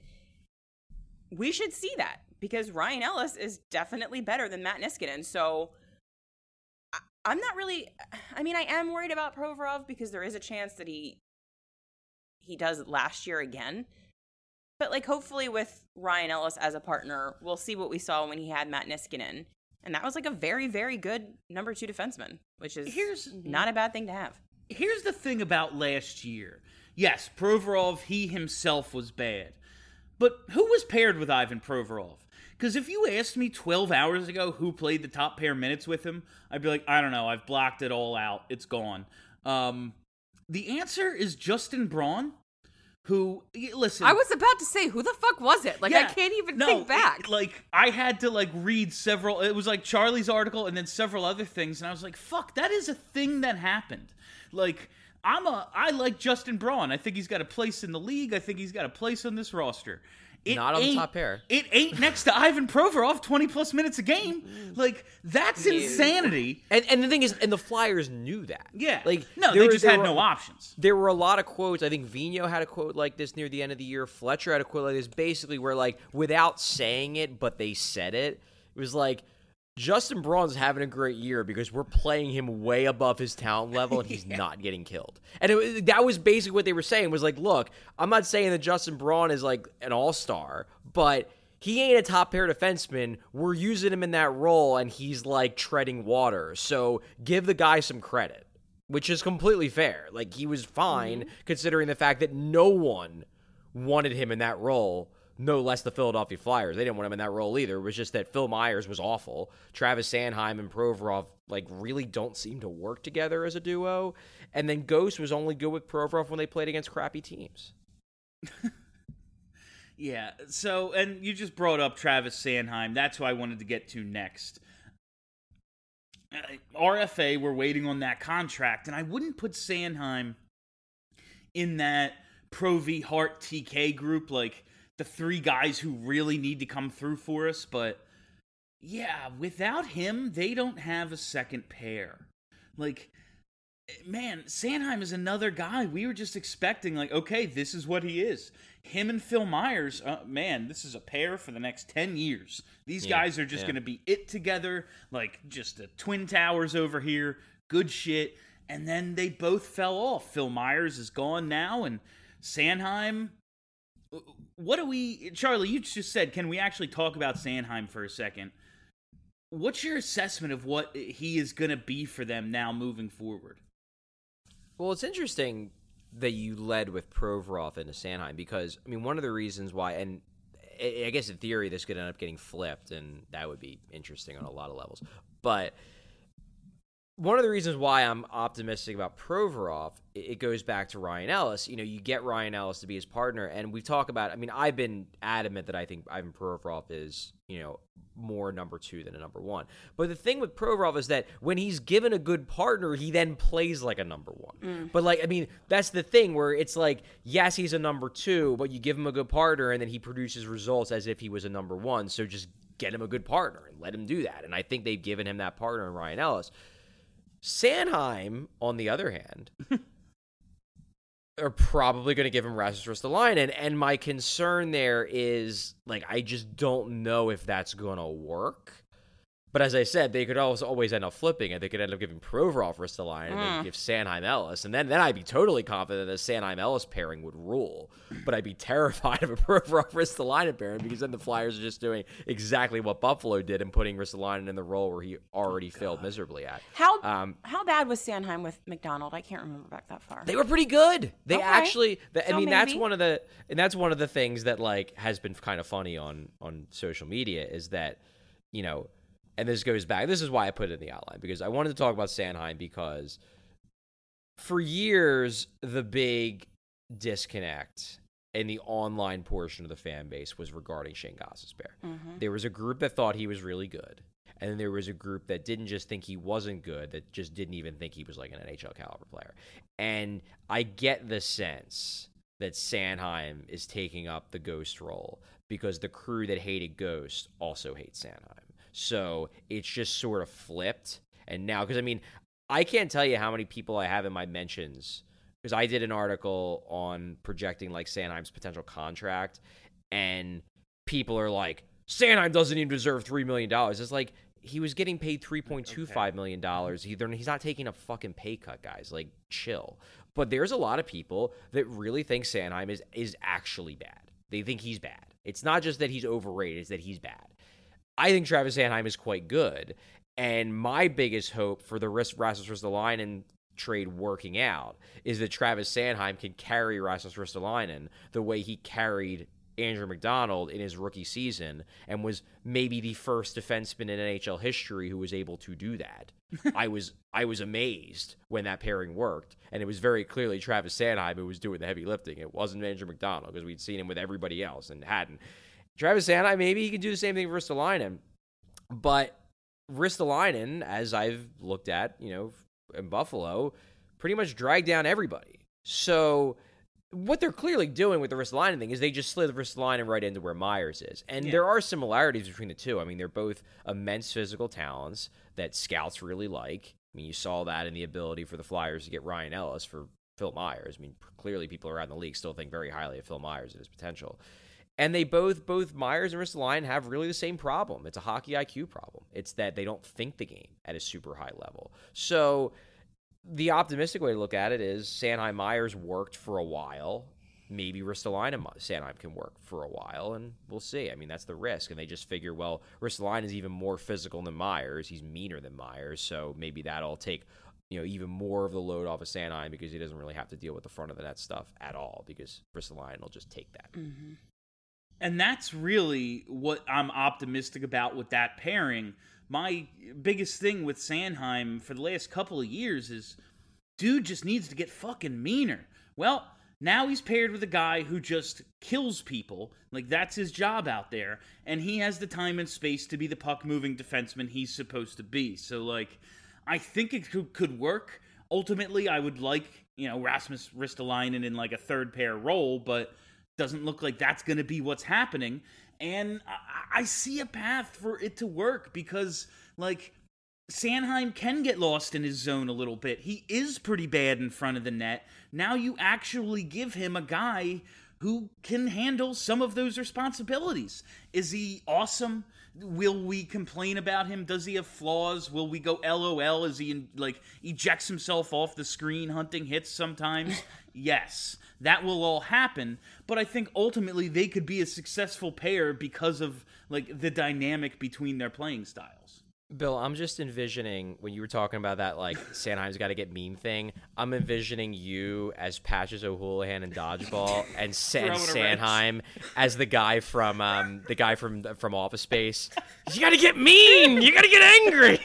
We should see that, because Ryan Ellis is definitely better than Matt Niskanen. So I, I'm not really, I mean, I am worried about Provorov because there is a chance that he he does it last year again. But, like, hopefully with Ryan Ellis as a partner, we'll see what we saw when he had Matt Niskanen. And that was, like, a very, very good number two defenseman, which is Here's, not a bad thing to have. Here's the thing about last year. Yes, Provorov, he himself was bad. But who was paired with Ivan Provorov? Because if you asked me twelve hours ago who played the top pair minutes with him, I'd be like, I don't know, I've blocked it all out. It's gone. Um, the answer is Justin Braun, who, listen. I was about to say, who the fuck was it? Like, yeah, I can't even no, think back. It, like, I had to, like, read several, it was like Charlie's article and then several other things, and I was like, fuck, that is a thing that happened. Like, I'm a, I like Justin Braun. I think he's got a place in the league. I think he's got a place on this roster. It Not on the top pair. It ain't next to Ivan Provorov, twenty plus minutes a game. Like, that's insanity. And and the thing is, and the Flyers knew that. Yeah. Like, no, they were, just had were, no options. There were a lot of quotes. I think Vigneault had a quote like this near the end of the year. Fletcher had a quote like this, basically where, like, without saying it, but they said it, it was like, Justin Braun's having a great year because we're playing him way above his talent level and he's yeah. not getting killed. And it, that was basically what they were saying, was like, look, I'm not saying that Justin Braun is like an all-star, but he ain't a top pair defenseman. We're using him in that role and he's like treading water. So give the guy some credit, which is completely fair. Like, he was fine mm-hmm. considering the fact that no one wanted him in that role. No less the Philadelphia Flyers. They didn't want him in that role either. It was just that Phil Myers was awful. Travis Sanheim and Provorov, like, really don't seem to work together as a duo. And then Ghost was only good with Provorov when they played against crappy teams. Yeah, so, and you just brought up Travis Sanheim. That's who I wanted to get to next. Uh, R F A, we're waiting on that contract, and I wouldn't put Sanheim in that Pro V Hart T K group, like, the three guys who really need to come through for us, but yeah, without him, they don't have a second pair. Like, man, Sanheim is another guy. We were just expecting, like, okay, this is what he is. Him and Phil Myers, uh, man, this is a pair for the next ten years. These yeah, guys are just yeah. going to be it together, like, just the Twin Towers over here, good shit. And then they both fell off. Phil Myers is gone now, and Sanheim, what do we, Charlie, you just said, can we actually talk about Sanheim for a second? What's your assessment of what he is going to be for them now moving forward? Well, it's interesting that you led with Provorov into Sanheim because, I mean, one of the reasons why, and I guess in theory this could end up getting flipped, and that would be interesting on a lot of levels. But one of the reasons why I'm optimistic about Provorov, it goes back to Ryan Ellis. You know, you get Ryan Ellis to be his partner, and we talk about, I mean, I've been adamant that I think Ivan Provorov is, you know, more number two than a number one. But the thing with Provorov is that when he's given a good partner, he then plays like a number one. Mm. But, like, I mean, that's the thing where it's like, yes, he's a number two, but you give him a good partner, and then he produces results as if he was a number one. So just get him a good partner and let him do that. And I think they've given him that partner in Ryan Ellis. Sanheim, on the other hand, are probably going to give him Rasmus Ristolainen, and my concern there is, like, I just don't know if that's going to work. But as I said, they could always always end up flipping it. They could end up giving Provorov Ristolainen and then give Sanheim Ellis, and then, then I'd be totally confident that the Sanheim Ellis pairing would rule. But I'd be terrified of a Provorov Ristolainen pairing because then the Flyers are just doing exactly what Buffalo did and putting Ristolainen in the role where he already oh, failed miserably at. How um, how bad was Sanheim with McDonald? I can't remember back that far. They were pretty good. They okay. actually, the, I so mean, maybe. that's one of the and that's one of the things that like has been kind of funny on on social media is that, you know. And this goes back. This is why I put it in the outline, because I wanted to talk about Sanheim because for years, the big disconnect in the online portion of the fan base was regarding Shane Gostisbehere. Mm-hmm. There was a group that thought he was really good. And then there was a group that didn't just think he wasn't good, that just didn't even think he was like an N H L caliber player. And I get the sense that Sanheim is taking up the Ghost role because the crew that hated Ghost also hates Sanheim. So it's just sort of flipped. And now, because I mean, I can't tell you how many people I have in my mentions, because I did an article on projecting like Sanheim's potential contract, and people are like, Sanheim doesn't even deserve three million dollars. It's like, he was getting paid three point two five million dollars. He, he's not taking a fucking pay cut, guys. Like, chill. But there's a lot of people that really think Sanheim is, is actually bad. They think he's bad. It's not just that he's overrated, it's that he's bad. I think Travis Sanheim is quite good, and my biggest hope for the Rasmus Ristolainen trade working out is that Travis Sanheim can carry Rasmus Ristolainen the way he carried Andrew McDonald in his rookie season and was maybe the first defenseman in N H L history who was able to do that. I was I was amazed when that pairing worked, and it was very clearly Travis Sanheim who was doing the heavy lifting. It wasn't Andrew McDonald because we'd seen him with everybody else and hadn't. Travis Sanheim, maybe he can do the same thing for Ristolainen. But Ristolainen, as I've looked at, you know, in Buffalo, pretty much dragged down everybody. So what they're clearly doing with the Ristolainen thing is they just slid the Ristolainen right into where Myers is. And yeah. there are similarities between the two. I mean, they're both immense physical talents that scouts really like. I mean, you saw that in the ability for the Flyers to get Ryan Ellis for Phil Myers. I mean, clearly people around the league still think very highly of Phil Myers and his potential. And they both, both Myers and Ristolainen have really the same problem. It's a hockey I Q problem. It's that they don't think the game at a super high level. So the optimistic way to look at it is Sanheim Myers worked for a while. Maybe Ristolainen Sanheim can work for a while, and we'll see. I mean, that's the risk. And they just figure, well, Ristolainen is even more physical than Myers. He's meaner than Myers, so maybe that'll take, you know, even more of the load off of Sanheim because he doesn't really have to deal with the front of the net stuff at all because Ristolainen will just take that. Mm-hmm. And that's really what I'm optimistic about with that pairing. My biggest thing with Sanheim for the last couple of years is, dude just needs to get fucking meaner. Well, now he's paired with a guy who just kills people. Like, that's his job out there. And he has the time and space to be the puck-moving defenseman he's supposed to be. So, like, I think it could, could work. Ultimately, I would like, you know, Rasmus Ristolainen in, like, a third-pair role, but doesn't look like that's going to be what's happening. And I, I see a path for it to work because, like, Sanheim can get lost in his zone a little bit. He is pretty bad in front of the net. Now you actually give him a guy who can handle some of those responsibilities. Is he awesome? Will we complain about him? Does he have flaws? Will we go L O L? Is he, like, ejects himself off the screen hunting hits sometimes? Yes. That will all happen, but I think ultimately they could be a successful pair because of like the dynamic between their playing styles. Bill, I'm just envisioning, when you were talking about that, like, Sanheim's got to get meme thing, I'm envisioning you as Patches O'Houlihan in Dodgeball and, Sa- and Sanheim as the guy from um, the guy from from Office Space. You got to get mean! You got to get angry!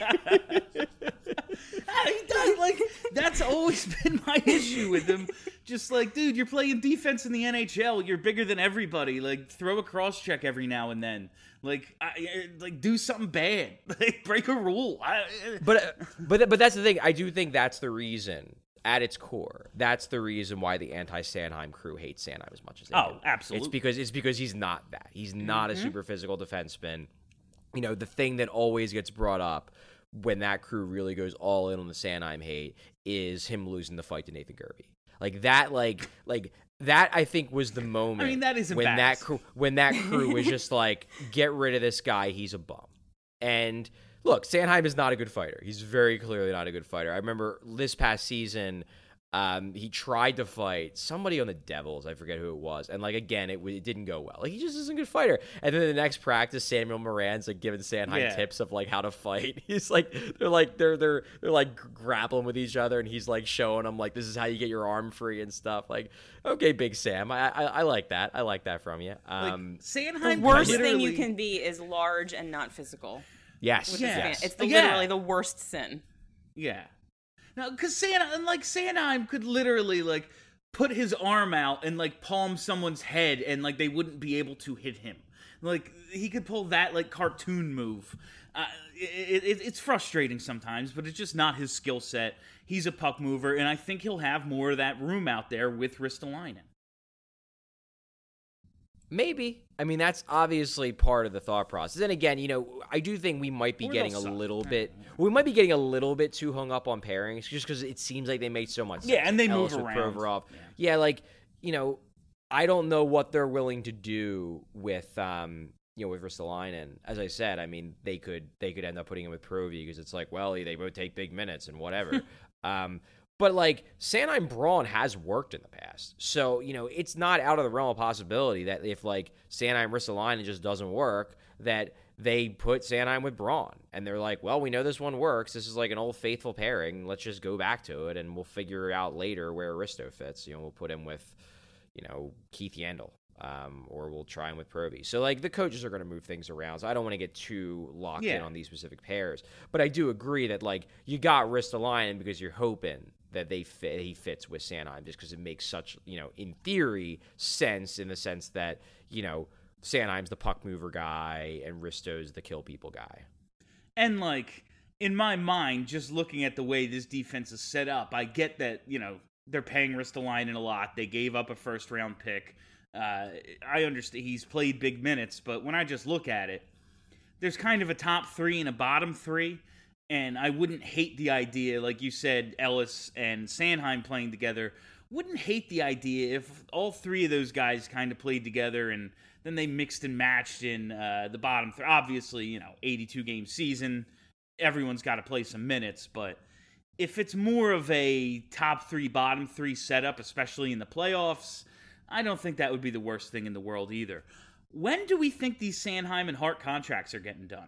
He does, like, that's always been my issue with him. Just like, dude, you're playing defense in the N H L. You're bigger than everybody. Like, throw a cross check every now and then. Like, I, like do something bad. Like, break a rule. I, but but but that's the thing. I do think that's the reason. At its core, that's the reason why the anti-Sanheim crew hates Sanheim as much as they oh, do. absolutely. It's because it's because he's not that. He's not mm-hmm. a super physical defenseman. You know, the thing that always gets brought up when that crew really goes all in on the Sanheim hate is him losing the fight to Nathan Gerbe. Like that, like like that. I think was the moment. I mean, that is when that crew when that crew was just like, get rid of this guy. He's a bum. And look, Sanheim is not a good fighter. He's very clearly not a good fighter. I remember this past season, um, he tried to fight somebody on the Devils. I forget who it was. And, like, again, it, it didn't go well. Like, he just isn't a good fighter. And then the next practice, Samuel Moran's, like, giving Sanheim yeah. tips of, like, how to fight. He's, like, they're, like, they're, they're, they're, like, grappling with each other. And he's, like, showing them, like, this is how you get your arm free and stuff. Like, okay, Big Sam. I I, I like that. I like that from you. Um, like, Sanheim the worst literally... thing you can be is large and not physical. Yes. yes. It's the, yeah. literally the worst sin. Yeah. Now, because Sanheim, like, Sanheim could literally, like, put his arm out and, like, palm someone's head and, like, they wouldn't be able to hit him. Like, he could pull that, like, cartoon move. Uh, it, it, it's frustrating sometimes, but it's just not his skill set. He's a puck mover, and I think he'll have more of that room out there with Ristolainen. Maybe. I mean, that's obviously part of the thought process. And again, you know, I do think we might be Or getting a they'll suck. little bit, we might be getting a little bit too hung up on pairings just because it seems like they make so much sense. Yeah, and they Ellis move with around. Provorov. Yeah. Yeah, like, you know, I don't know what they're willing to do with, um, you know, with Ristolainen. As I said, I mean, they could they could end up putting him with Provi because it's like, well, they both take big minutes and whatever. um, But, like, Sanheim Braun has worked in the past. So, you know, it's not out of the realm of possibility that if, like, Sanheim Ristolainen just doesn't work, that they put Sanheim with Braun. And they're like, well, we know this one works. This is, like, an old faithful pairing. Let's just go back to it, and we'll figure out later where Risto fits. You know, we'll put him with, you know, Keith Yandel. Um, or we'll try him with Provi. So, like, the coaches are going to move things around. So I don't want to get too locked yeah. in on these specific pairs. But I do agree that, like, you got Ristolainen because you're hoping that they fit, he fits with Sanheim just because it makes such, you know, in theory, sense in the sense that, you know, Sanheim's the puck mover guy and Risto's the kill people guy. And, like, in my mind, just looking at the way this defense is set up, I get that, you know, they're paying Ristolainen a lot. They gave up a first-round pick. Uh, I understand he's played big minutes, but when I just look at it, there's kind of a top three and a bottom three. And I wouldn't hate the idea, like you said, Ellis and Sanheim playing together. Wouldn't hate the idea if all three of those guys kind of played together and then they mixed and matched in uh, the bottom three. Obviously, you know, eighty-two game season, everyone's got to play some minutes. But if it's more of a top three, bottom three setup, especially in the playoffs, I don't think that would be the worst thing in the world either. When do we think these Sanheim and Hart contracts are getting done?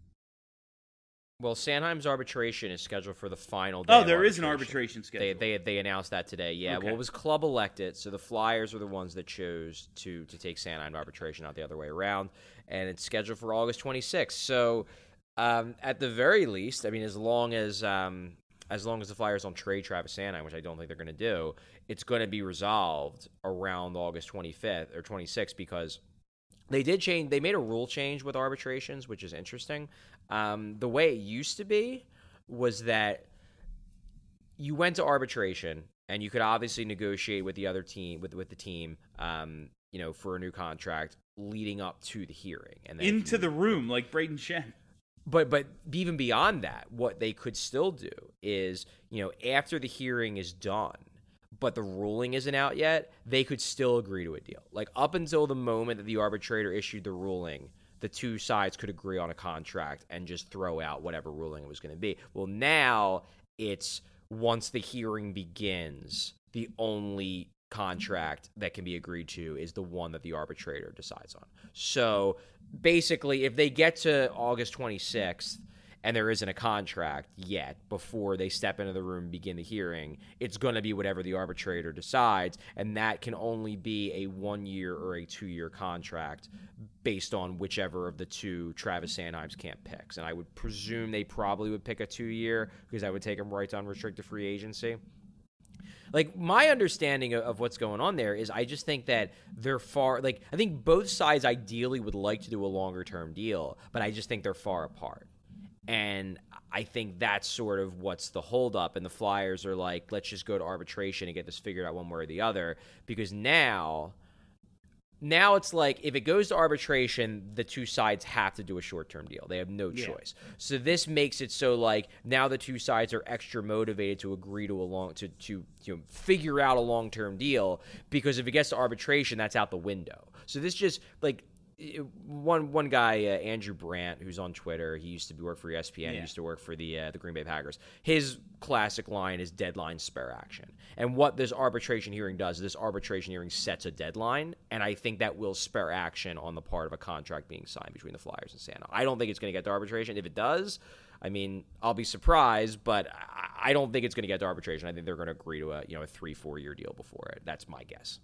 Well, Sanheim's arbitration is scheduled for the final day. Oh, there is an arbitration schedule. They they they announced that today. Yeah, Okay. well, it was club elected, so the Flyers are the ones that chose to to take Sanheim to arbitration, not the other way around, and it's scheduled for August twenty-sixth. So, um, at the very least, I mean, as long as um, as long as the Flyers don't trade Travis Sanheim, which I don't think they're going to do, it's going to be resolved around August twenty-fifth or twenty-sixth because they did change. They made a rule change with arbitrations, which is interesting. Um, the way it used to be was that you went to arbitration and you could obviously negotiate with the other team, with with the team, um, you know, for a new contract leading up to the hearing and then Into the room, like Braden Shen. But but even beyond that, what they could still do is, you know, after the hearing is done, but the ruling isn't out yet, they could still agree to a deal. Like up until the moment that the arbitrator issued the ruling, the two sides could agree on a contract and just throw out whatever ruling it was going to be. Well, now it's once the hearing begins, the only contract that can be agreed to is the one that the arbitrator decides on. So basically, if they get to August twenty-sixth and there isn't a contract yet before they step into the room and begin the hearing, it's going to be whatever the arbitrator decides, and that can only be a one-year or a two-year contract based on whichever of the two Travis Sanheim's camp picks. And I would presume they probably would pick a two-year because that would take them right to unrestricted free agency. Like, my understanding of, of what's going on there is I just think that they're far, like, I think both sides ideally would like to do a longer-term deal, but I just think they're far apart. And I think that's sort of what's the holdup. And the Flyers are like, let's just go to arbitration and get this figured out one way or the other. Because now, now it's like, if it goes to arbitration, the two sides have to do a short-term deal. They have no Yeah. choice. So this makes it so, like, now the two sides are extra motivated to agree to a long, to, to you know, figure out a long-term deal. Because if it gets to arbitration, that's out the window. So this just, like, One one guy, uh, Andrew Brandt, who's on Twitter, he used to work for E S P N, Yeah. he used to work for the uh, the Green Bay Packers. His classic line is deadline spare action. And what this arbitration hearing does, this arbitration hearing sets a deadline, and I think that will spare action on the part of a contract being signed between the Flyers and Santa. I don't think it's going to get to arbitration. If it does, I mean, I'll be surprised, but I, I don't think it's going to get to arbitration. I think they're going to agree to a you know a three, four year deal before it. That's my guess.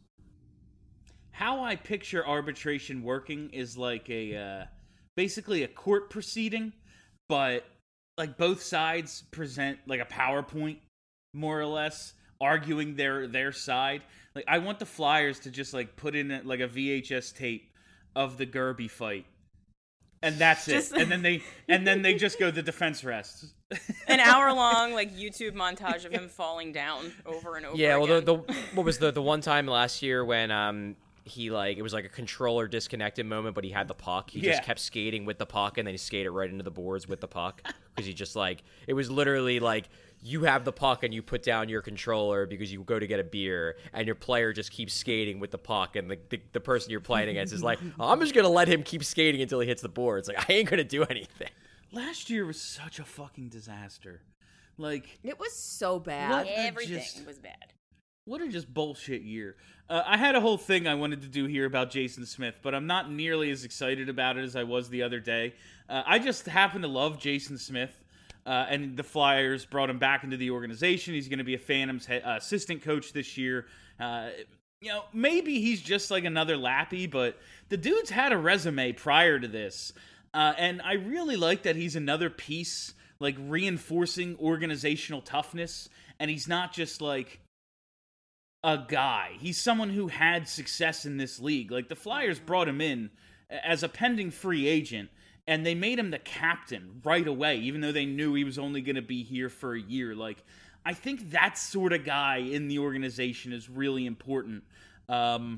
How I picture arbitration working is like a uh, basically a court proceeding, but like both sides present like a PowerPoint, more or less, arguing their their side. Like, I want the Flyers to just like put in like a V H S tape of the Gerby fight, and that's Just- it. And then they and then they just go, the defense rests. An hour long like YouTube montage of him falling down over and over. Yeah, well, again. the, the what was the the one time last year when um he like it was like a controller disconnected moment, but he had the puck. He Yeah. just kept skating with the puck, and then he skated right into the boards with the puck because he just like it was literally like you have the puck and you put down your controller because you go to get a beer, and your player just keeps skating with the puck, and the the, the person you're playing against is like, oh, I'm just gonna let him keep skating until he hits the boards. Like, I ain't gonna do anything. Last year was such a fucking disaster. Like, It was so bad. What? Everything just- was bad. what a just bullshit year. Uh, I had a whole thing I wanted to do here about Jason Smith, but I'm not nearly as excited about it as I was the other day. Uh, I just happen to love Jason Smith, uh, and the Flyers brought him back into the organization. He's going to be a Phantoms he- uh, assistant coach this year. Uh, you know, maybe he's just like another Lappy, but the dude's had a resume prior to this. Uh, and I really like that he's another piece, like, reinforcing organizational toughness, and he's not just like a guy. He's someone who had success in this league. Like, the Flyers brought him in as a pending free agent, and they made him the captain right away, even though they knew he was only going to be here for a year. Like, I think that sort of guy in the organization is really important. Um,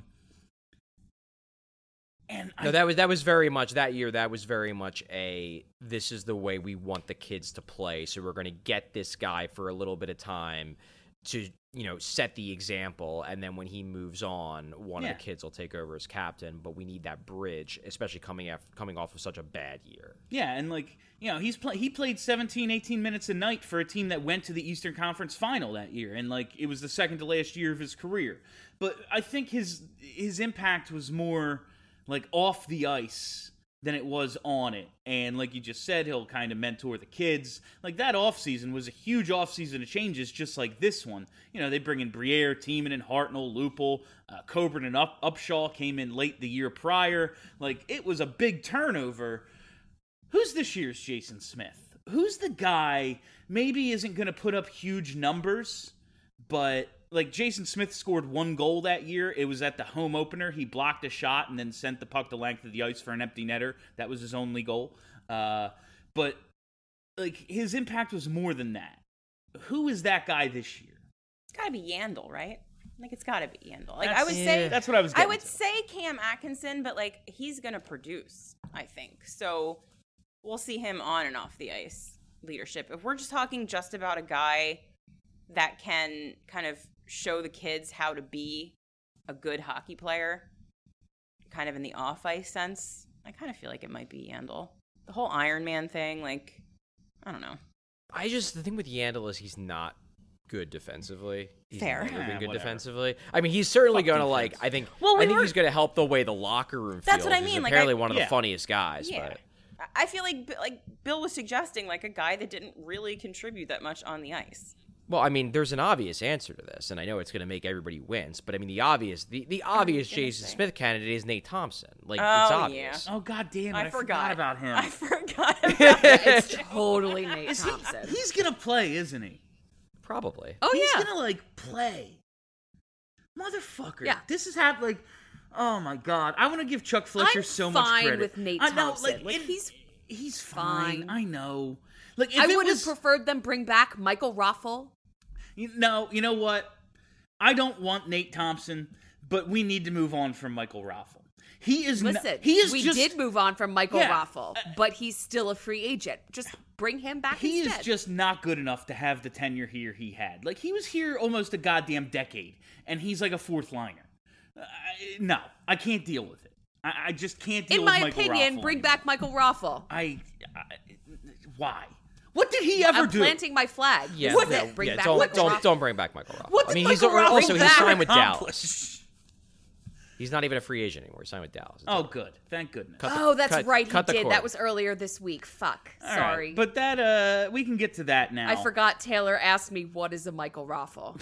and No, I, that was that was very much that year. That was very much a this is the way we want the kids to play. So we're going to get this guy for a little bit of time to you know set the example, and then when he moves on, one Yeah. of the kids will take over as captain. But we need that bridge, especially coming after, coming off of such a bad year. Yeah, and like, you know, he's play- he played seventeen, eighteen minutes a night for a team that went to the Eastern Conference Final that year, and like it was the second to last year of his career. But I think his his impact was more like off the ice than it was on it. And like you just said, he'll kind of mentor the kids. Like, that offseason was a huge offseason of changes, just like this one. You know, they bring in Briere, Tiemann, and Hartnell, Lupul, uh, Coburn and Up- Upshaw came in late the year prior. Like, it was a big turnover. Who's this year's Jason Smith? Who's the guy maybe isn't going to put up huge numbers, but like Jason Smith scored one goal that year. It was at the home opener. He blocked a shot and then sent the puck the length of the ice for an empty netter. That was his only goal. Uh, but like, his impact was more than that. Who is that guy this year? It's got to be Yandel, right? Like, it's got to be Yandel. Like, I That's- would say that's what I was I getting would to. say Cam Atkinson, but like, he's gonna produce, I think. So we'll see him on and off the ice leadership. If we're just talking just about a guy that can kind of show the kids how to be a good hockey player, kind of in the off ice sense, I kind of feel like it might be Yandel. The whole Iron Man thing, like, I don't know. I just the thing with Yandel is he's not good defensively. He's Fair. never Yeah, been good whatever. defensively. I mean, he's certainly Fuck going to defense. like. I think. Well, we I think were- he's going to help the way the locker room feels. That's what I He's mean, like, apparently I- one of Yeah. the funniest guys. Yeah. But I- I feel like like Bill was suggesting like a guy that didn't really contribute that much on the ice. well, I mean, there's an obvious answer to this, and I know it's going to make everybody wince. But I mean, the obvious, the, the obvious gonna Jason say? Smith candidate is Nate Thompson. Like Oh, it's obvious. Oh god damn it! I, I, forgot about him. I forgot about It's totally Nate Is he- Thompson. he's gonna play, isn't he? Probably. Oh he's yeah. gonna like play. Motherfucker. Yeah. This is hap like. Oh my god! I want to give Chuck Fletcher I'm so much fine credit. with Nate I know, Thompson. like, Like, it- he's he's fine. fine. I know. Like if I it would was, have preferred them bring back Michael Raffle. You know, you know what? I don't want Nate Thompson, but we need to move on from Michael Raffle. He is. Listen, Not, he is we just. did move on from Michael Yeah. Raffle, but he's still a free agent. Just bring him back He instead. is just not good enough to have the tenure here he had. Like he was here almost a goddamn decade, and he's like a fourth liner. Uh, no, I can't deal with it. I, I just can't deal In with my Michael opinion, Raffle bring anymore. back Michael Raffle. I, I. Why? What did he ever I'm do? planting my flag. Yeah, This is no, it. Bring yeah, back don't Michael don't Raffle. don't bring back Michael Raffle. What I did mean, he's Michael a, Raffle also he's back signed with accomplish? Dallas. He's not even a free agent anymore. He's signed with Dallas. It's Oh, okay. good. Thank goodness. Cut the- Oh, that's cut- right. He cut the did. cord. That was earlier this week. Fuck. All right, Sorry. but that uh, we can get to that now. I forgot Taylor asked me what is a Michael Raffle.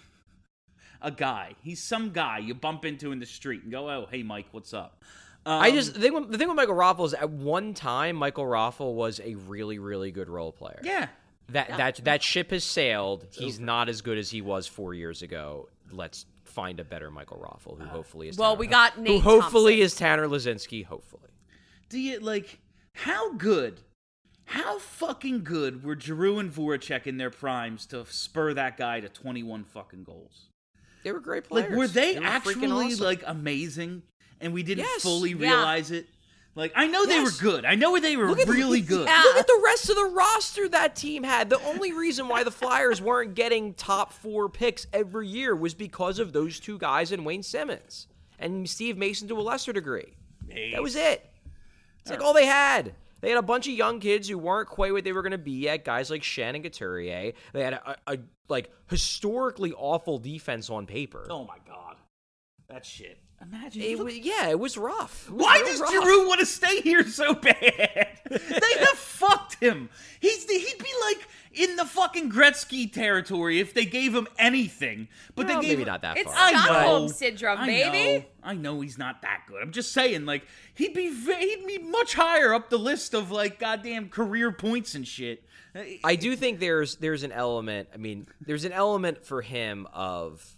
A guy. He's some guy you bump into in the street and go, "Oh, hey, Mike, what's up?" Um, I just the thing, with, the thing with Michael Raffle is at one time Michael Raffle was a really really good role player. yeah. That that that ship has sailed. He's not as good as he was four years ago. Let's find a better Michael Raffle, who hopefully is Well, Tanner, we got who Nate hopefully Thompson. is Tanner Lazinski. Hopefully, Do you like how good, how fucking good were Giroux and Voracek in their primes to spur that guy to twenty-one fucking goals? they were great players. Like, were they, were freaking actually awesome. like amazing, and we didn't Yes. fully Yeah. realize it? Like, I know they were Yes. good. I know they were Look at the- really good. Yeah. Look at the rest of the roster that team had. The only reason why the Flyers weren't getting top four picks every year was because of those two guys and Wayne Simmons and Steve Mason to a lesser degree. That was it. It's like all they had. They had a bunch of young kids who weren't quite what they were going to be yet. Guys like Shen and Couturier. They had a, a, a like historically awful defense on paper. Oh my god, that shit. Imagine. It look- was, yeah, it was rough. It was Why real does rough. Giroux want to stay here so bad? They have fucked him. He's he'd be like in the fucking Gretzky territory if they gave him anything. But Well, they gave maybe him, not that It's far. I know. Stockholm syndrome, I baby. know. I know he's not that good. I'm just saying, like he'd be ve- he'd be much higher up the list of like goddamn career points and shit. I do think there's there's an element. I mean, there's an element for him of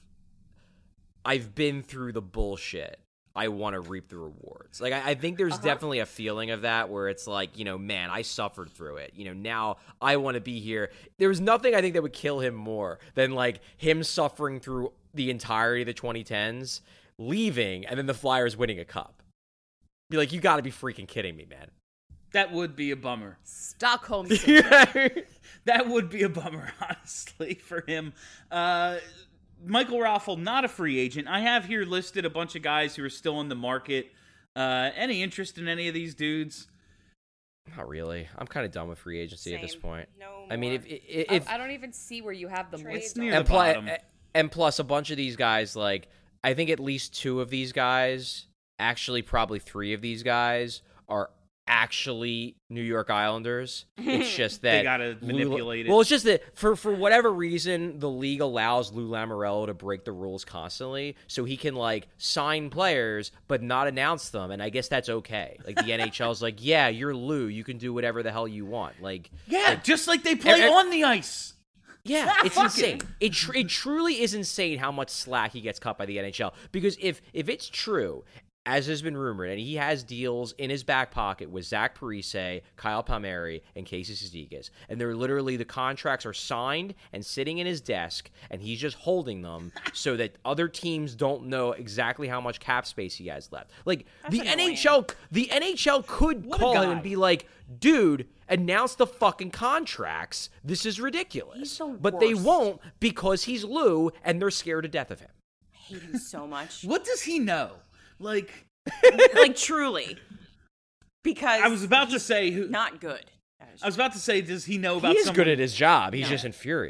I've been through the bullshit. I want to reap the rewards. Like I, I think there's definitely a feeling of that where it's like, you know, man, I suffered through it. You know, now I want to be here. There was nothing I think that would kill him more than like him suffering through the entirety of the twenty tens, leaving, and then the Flyers winning a cup. Be like, you got to be freaking kidding me, man. That would be a bummer. Stockholm syndrome. That would be a bummer, honestly, for him. Uh, Michael Raffle, not a free agent. I have here listed a bunch of guys who are still in the market. Uh, any interest in any of these dudes? Not really. I'm kind of done with free agency at this Same. point. No I mean, more. if if, I, I don't even see where you have them Trades listed. near and, the pl- bottom. and plus a bunch of these guys, like I think at least two of these guys, actually probably three of these guys are actually New York Islanders. It's just that They gotta Lou- manipulate it. Well, it's just that for for whatever reason, the league allows Lou Lamoriello to break the rules constantly, so he can like sign players but not announce them, and I guess that's okay. Like the N H L's like, yeah, you're Lou, you can do whatever the hell you want. Like, Yeah, just like they play and- on the ice. yeah, it's Fuck insane. it. It tr- it truly is insane how much slack he gets cut by the N H L. Because if if it's true, as has been rumored, and he has deals in his back pocket with Zach Parise, Kyle Palmieri, and Casey Cizikas, and they're literally the contracts are signed and sitting in his desk, and he's just holding them so that other teams don't know exactly how much cap space he has left. Like the annoying. N H L, the N H L could What a call him guy. and be like, "Dude, announce the fucking contracts. This is ridiculous." He's the but they worst. won't because he's Lou, and they're scared to death of him. I hate him so much. What does he know? Like, Like truly, because I was about to he's say, who, not good. I was about to say, does he know about He is someone? good at his job. He's just infuriating.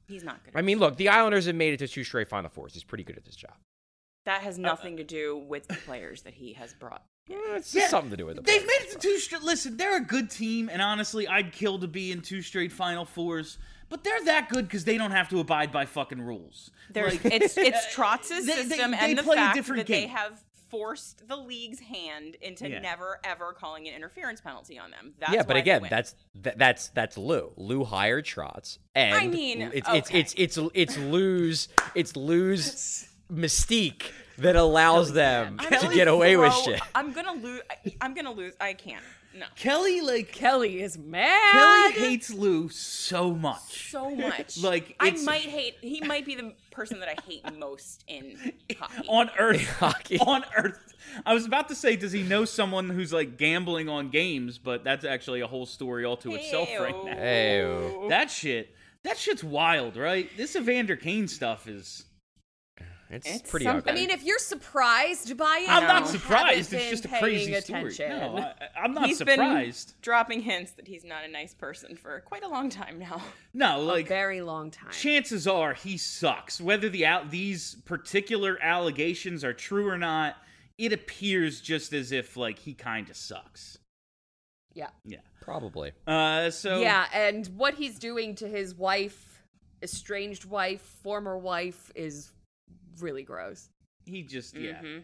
He's not good. I mean, look, the Islanders have made it to two straight Final Fours. He's pretty good at this job. That has nothing to do with the players that he has brought. Eh, It's yeah, something to do with the They've players. made it to two straight. Listen, they're a good team, and honestly, I'd kill to be in two straight Final Fours. But they're that good because they don't have to abide by fucking rules. There's, Like, it's it's Trotz's they- they- system they and the play a fact different that they game. have forced the league's hand into Yeah. never ever calling an interference penalty on them. That's yeah, but why they again, win. that's that, that's that's Lou. Lou hired Trotz, and I mean, it's okay. it's it's it's it's Lou's it's Lou's mystique that allows them I'm to gonna get away with throw- shit. I'm gonna lose. I'm gonna lose. I can't. No. Kelly, like Kelly is mad. Kelly hates Lou so much. So much. Like, I it's- might hate. He might be the person that I hate most in hockey. On Earth, Hockey. on Earth. I was about to say, does he know someone who's like gambling on games? But that's actually a whole story all to itself right now. Hey, That shit, that shit's wild, right? This Evander Kane stuff is. it's, It's pretty something. ugly. I mean, if you're surprised by it, I'm you not haven't surprised. It's been just a paying crazy story. attention. No, I, I'm not He's surprised. been dropping hints that he's not a nice person for quite a long time now. No, A like very long time. chances are he sucks. Whether the out these particular allegations are true or not, it appears just as if like he kind of sucks. Yeah. Yeah. Probably. Uh. So Yeah, and what he's doing to his wife, estranged wife, former wife, is really gross. he just yeah. Mhm.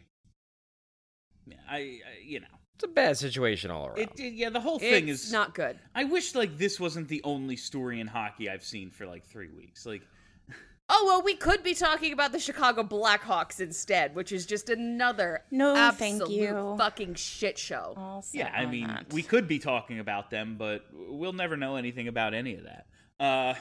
yeah I, I you know It's a bad situation all around. it, it yeah the whole thing It's is not good. I wish like this wasn't the only story in hockey I've seen for like three weeks. Like Oh, well, we could be talking about the Chicago Blackhawks instead, which is just another No, absolute thank you. fucking shit show. All set yeah, I on mean that. we could be talking about them, but we'll never know anything about any of that. Uh.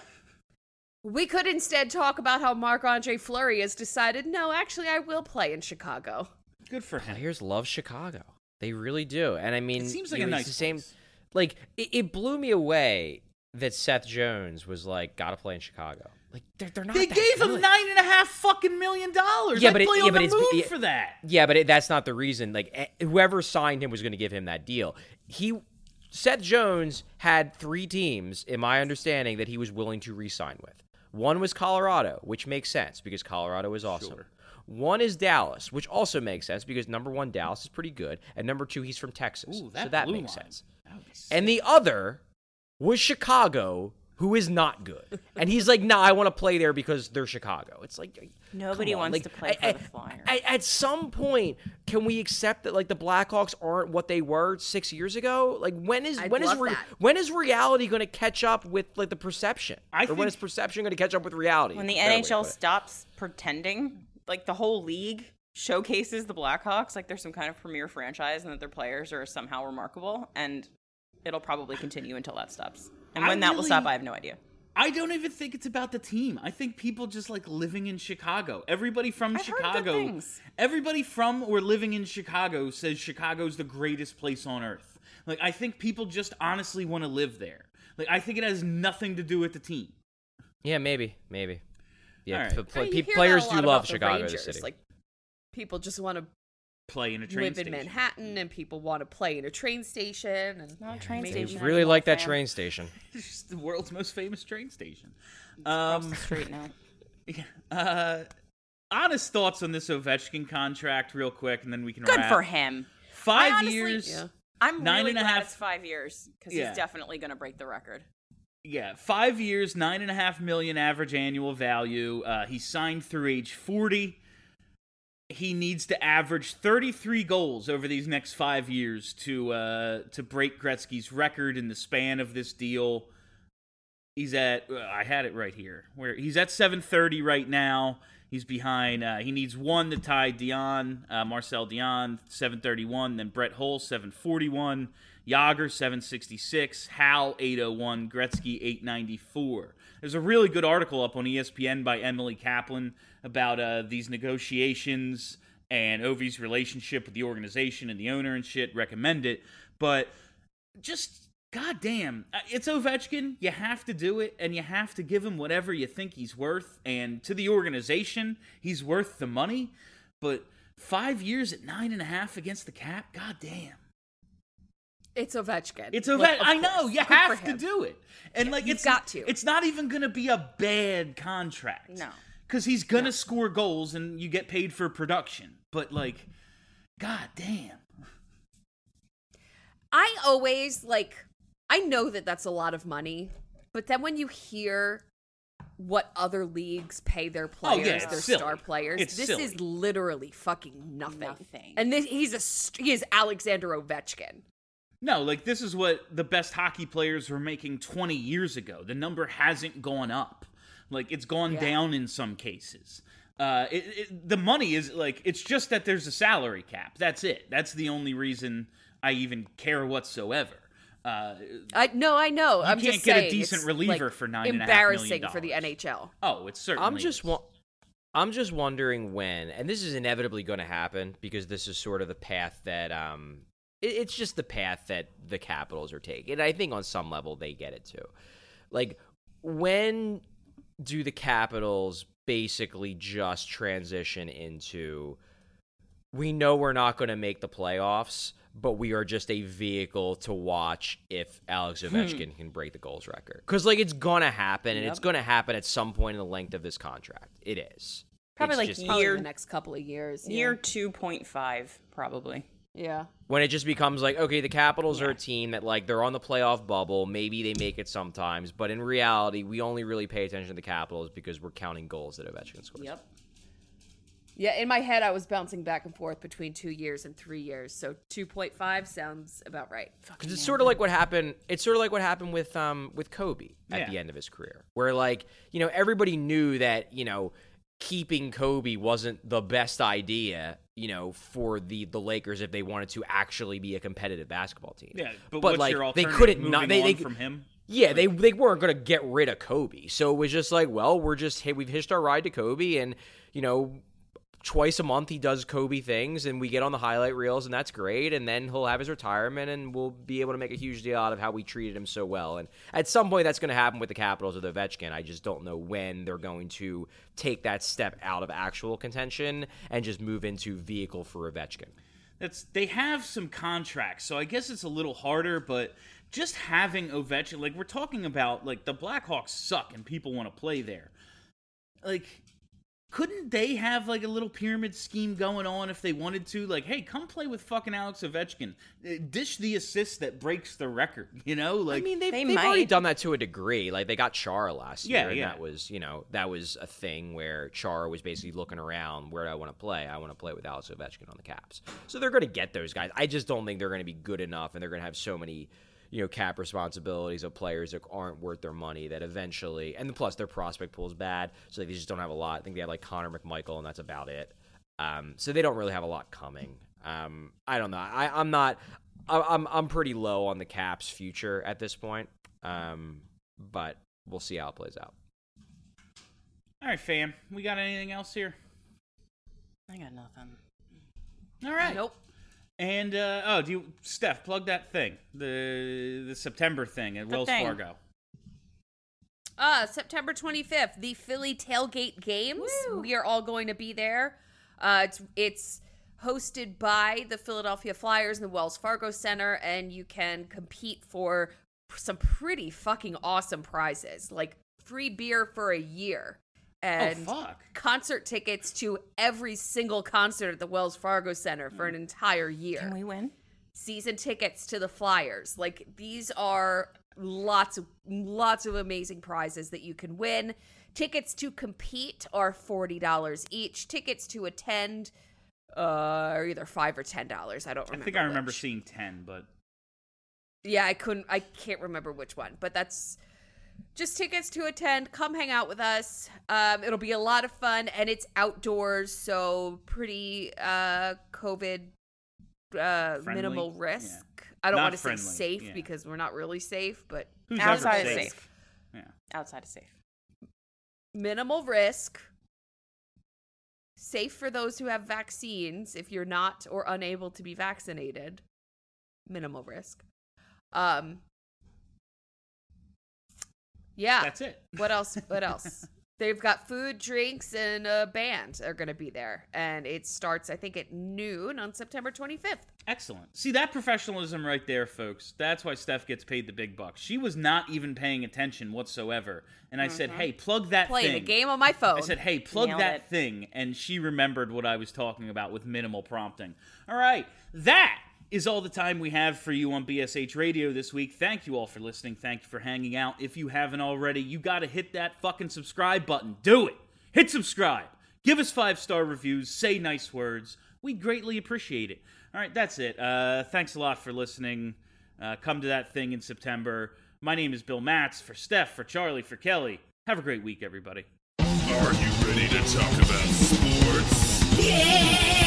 We could instead talk about how Marc-Andre Fleury has decided, no, actually, I will play in Chicago. Good for him. Players love Chicago. They really do. And I mean, It seems like you a know, nice it's the same. place. Like it, it blew me away that Seth Jones was like, "Gotta play in Chicago." Like they're they're not. They that gave him good. nine and a half fucking million dollars. Yeah, I'd but it- play yeah, on but the it's- moon yeah. for that. Yeah, but it, that's not the reason. Like eh, whoever signed him was going to give him that deal. He Seth Jones had three teams, in my understanding, that he was willing to re-sign with. One was Colorado, which makes sense because Colorado is awesome. Sure. One is Dallas, which also makes sense because number one, Dallas is pretty good, and number two, he's from Texas, Ooh, that so that blue makes line. sense. That would be sick. And the other was Chicago, who is not good. And he's like, nah, I want to play there because they're Chicago. It's like, Nobody come on, wants like, to play for at, the Flyers. At, at some point, can we accept that like the Blackhawks aren't what they were six years ago? Like when is I'd when is love re- that. when is reality going to catch up with like the perception? I or when think- is perception going to catch up with reality? When the Better way N to H L put it. stops pretending, like the whole league showcases the Blackhawks like they're some kind of premier franchise and that their players are somehow remarkable, and it'll probably continue until that stops. And I when that will really- stop, I have no idea. I don't even think it's about the team. I think people just like living in Chicago. Everybody from I've heard good Chicago, things. everybody from or living in Chicago says Chicago's the greatest place on earth. Like I think people just honestly want to live there. Like I think it has nothing to do with the team. Yeah, maybe, maybe. Yeah, All right. p- I play- mean, pe- you hear players that a do lot love about the Chicago, the Rangers. city. Like, people just want to Play in a train live station. in Manhattan, and people want to play in a train station. And Not a train maybe- They station. really anymore, like that fam. train station. It's just the world's most famous train station. Across Um, the street now. yeah, uh, honest thoughts on this Ovechkin contract, real quick, and then we can Good wrap. for him. Five I honestly- years. Yeah. I'm Nine really and a glad half- it's five years because Yeah. he's definitely going to break the record. Yeah, five years, nine and a half million average annual value. Uh, he signed through age forty. He needs to average thirty-three goals over these next five years to uh, to break Gretzky's record in the span of this deal. He's at uh, I had it right here. Where he's at seven thirty right now. He's behind. Uh, he needs one to tie Dion, uh, Marcel Dion, seven thirty-one. Then Brett Hull, seven forty-one. Yager, seven sixty-six. Hal, eight oh one. Gretzky, eight ninety-four. There's a really good article up on E S P N by Emily Kaplan about uh, these negotiations and Ovi's relationship with the organization and the owner and shit. Recommend it. But just, goddamn, it's Ovechkin. You have to do it, and you have to give him whatever you think he's worth. And to the organization, he's worth the money. But five years at nine and a half against the cap, goddamn. It's Ovechkin. It's Like, Ovechkin. of I know. course. You Good for have to him. do it. And, like, you've it's got to. It's not even going to be a bad contract. No. Because he's going to score goals and you get paid for production. But, like, god damn. I always, like, I know that that's a lot of money, but then when you hear what other leagues pay their players, Oh, yeah, it's their silly. star players, It's this silly. is literally fucking nothing. Nothing. And this, he's a st- he is Alexander Ovechkin. No, like, this is what the best hockey players were making twenty years ago. The number hasn't gone up. Like, it's gone Yeah. down in some cases. Uh, it, it, the money is, like, it's just that there's a salary cap. That's it. That's the only reason I even care whatsoever. Uh, I no, I know. I'm can't just get a saying, decent it's, reliever like, for nine and a half million embarrassing for the dollars. N H L. oh, it's certainly I'm just is. wa- I'm just wondering when, and this is inevitably going to happen because this is sort of the path that um, it, it's just the path that the Capitals are taking. And I think on some level they get it too. Like, when do the Capitals basically just transition into, we know we're not going to make the playoffs, but we are just a vehicle to watch if Alex Ovechkin can break the goals record? Because, like, it's going to happen, and Yep. it's going to happen at some point in the length of this contract. It is. Probably It's like just- Probably year the next couple of years. yeah. year two point five, probably. Yeah. when it just becomes like, okay, the Capitals are a team that, like, they're on the playoff bubble. Maybe they make it sometimes, but in reality, we only really pay attention to the Capitals because we're counting goals that Ovechkin scores. Yep. Yeah, in my head, I was bouncing back and forth between two years and three years. So two point five sounds about right. Because it's sort of like what happened. It's sort of like what happened with um with Kobe at Yeah. the end of his career, where, like, you know, everybody knew that, you know, keeping Kobe wasn't the best idea, you know, for the the Lakers if they wanted to actually be a competitive basketball team. Yeah, but, but what's like your they alternative? couldn't Moving not they, on they from him? Yeah, they they weren't going to get rid of Kobe. So it was just like, well, we're just, hey, we've hitched our ride to Kobe, and, you know, twice a month he does Kobe things, and we get on the highlight reels, and that's great. And then he'll have his retirement, and we'll be able to make a huge deal out of how we treated him so well. And at some point, that's going to happen with the Capitals with Ovechkin. I just don't know when they're going to take that step out of actual contention and just move into vehicle for Ovechkin. That's they have some contracts, so I guess it's a little harder, but just having Ovechkin, like, we're talking about, like, the Blackhawks suck and people want to play there. Like, couldn't they have, like, a little pyramid scheme going on if they wanted to? Like, hey, come play with fucking Alex Ovechkin. Uh, Dish the assist that breaks the record, you know? Like, I mean, they've, They they've already might. done that to a degree. Like, they got Chara last Yeah, year, and yeah. that was, you know, that was a thing where Chara was basically looking around, where do I want to play? I want to play with Alex Ovechkin on the Caps. So they're going to get those guys. I just don't think they're going to be good enough, and they're going to have so many, you know, cap responsibilities of players that aren't worth their money that eventually, and plus their prospect pool is bad, so they just don't have a lot. I think they have, like, Connor McMichael, and that's about it. Um, so they don't really have a lot coming. Um, I don't know. I, I'm not. I, I'm I'm pretty low on the Caps' future at this point. Um, but we'll see how it plays out. all right, fam, we got anything else here? I got nothing. All right. Nope. And, uh, oh, do you, Steph, plug that thing, the the September thing at The Wells thing. Fargo. Uh, September twenty-fifth, the Philly Tailgate Games. We are all going to be there. Uh, it's it's hosted by the Philadelphia Flyers in the Wells Fargo Center, and you can compete for some pretty fucking awesome prizes, like free beer for a year and Oh, fuck. concert tickets to every single concert at the Wells Fargo Center for an entire year. Can we win? Season tickets to the Flyers. Like, these are lots of lots of amazing prizes that you can win. Tickets to compete are forty dollars each. Tickets to attend uh, are either five or ten dollars. I don't I remember. think I remember which. seeing ten, but Yeah, I couldn't. I can't remember which one, but that's just tickets to attend. Come hang out with us. Um, it'll be a lot of fun, and it's outdoors, so pretty uh, COVID uh, Friendly? minimal Yeah. risk. I don't Not want to say friendly, safe yeah. because we're not really safe, but who's Outside ever is safe? safe. Yeah. Outside is safe. minimal risk. Safe for those who have vaccines. If you're not or unable to be vaccinated, minimal risk. Um. Yeah. That's it. What else? What else? they've got food, drinks, and a band are going to be there. And it starts, I think, at noon on September twenty-fifth. Excellent. See, that professionalism right there, folks. That's why Steph gets paid the big bucks. She was not even paying attention whatsoever. And I mm-hmm. said, hey, plug that Playing thing. Playing a game on my phone. I said, hey, plug Nailed that it. thing. And she remembered what I was talking about with minimal prompting. All right. That is all the time we have for you on B S H Radio this week. Thank you all for listening. Thank you for hanging out. If you haven't already, you got to hit that fucking subscribe button. Do it. Hit subscribe. Give us five-star reviews. Say nice words. We greatly appreciate it. All right, that's it. Uh, thanks a lot for listening. Uh, come to that thing in September. My name is Bill Matz. For Steph, for Charlie, for Kelly. Have a great week, everybody. Are you ready to talk about sports? Yeah!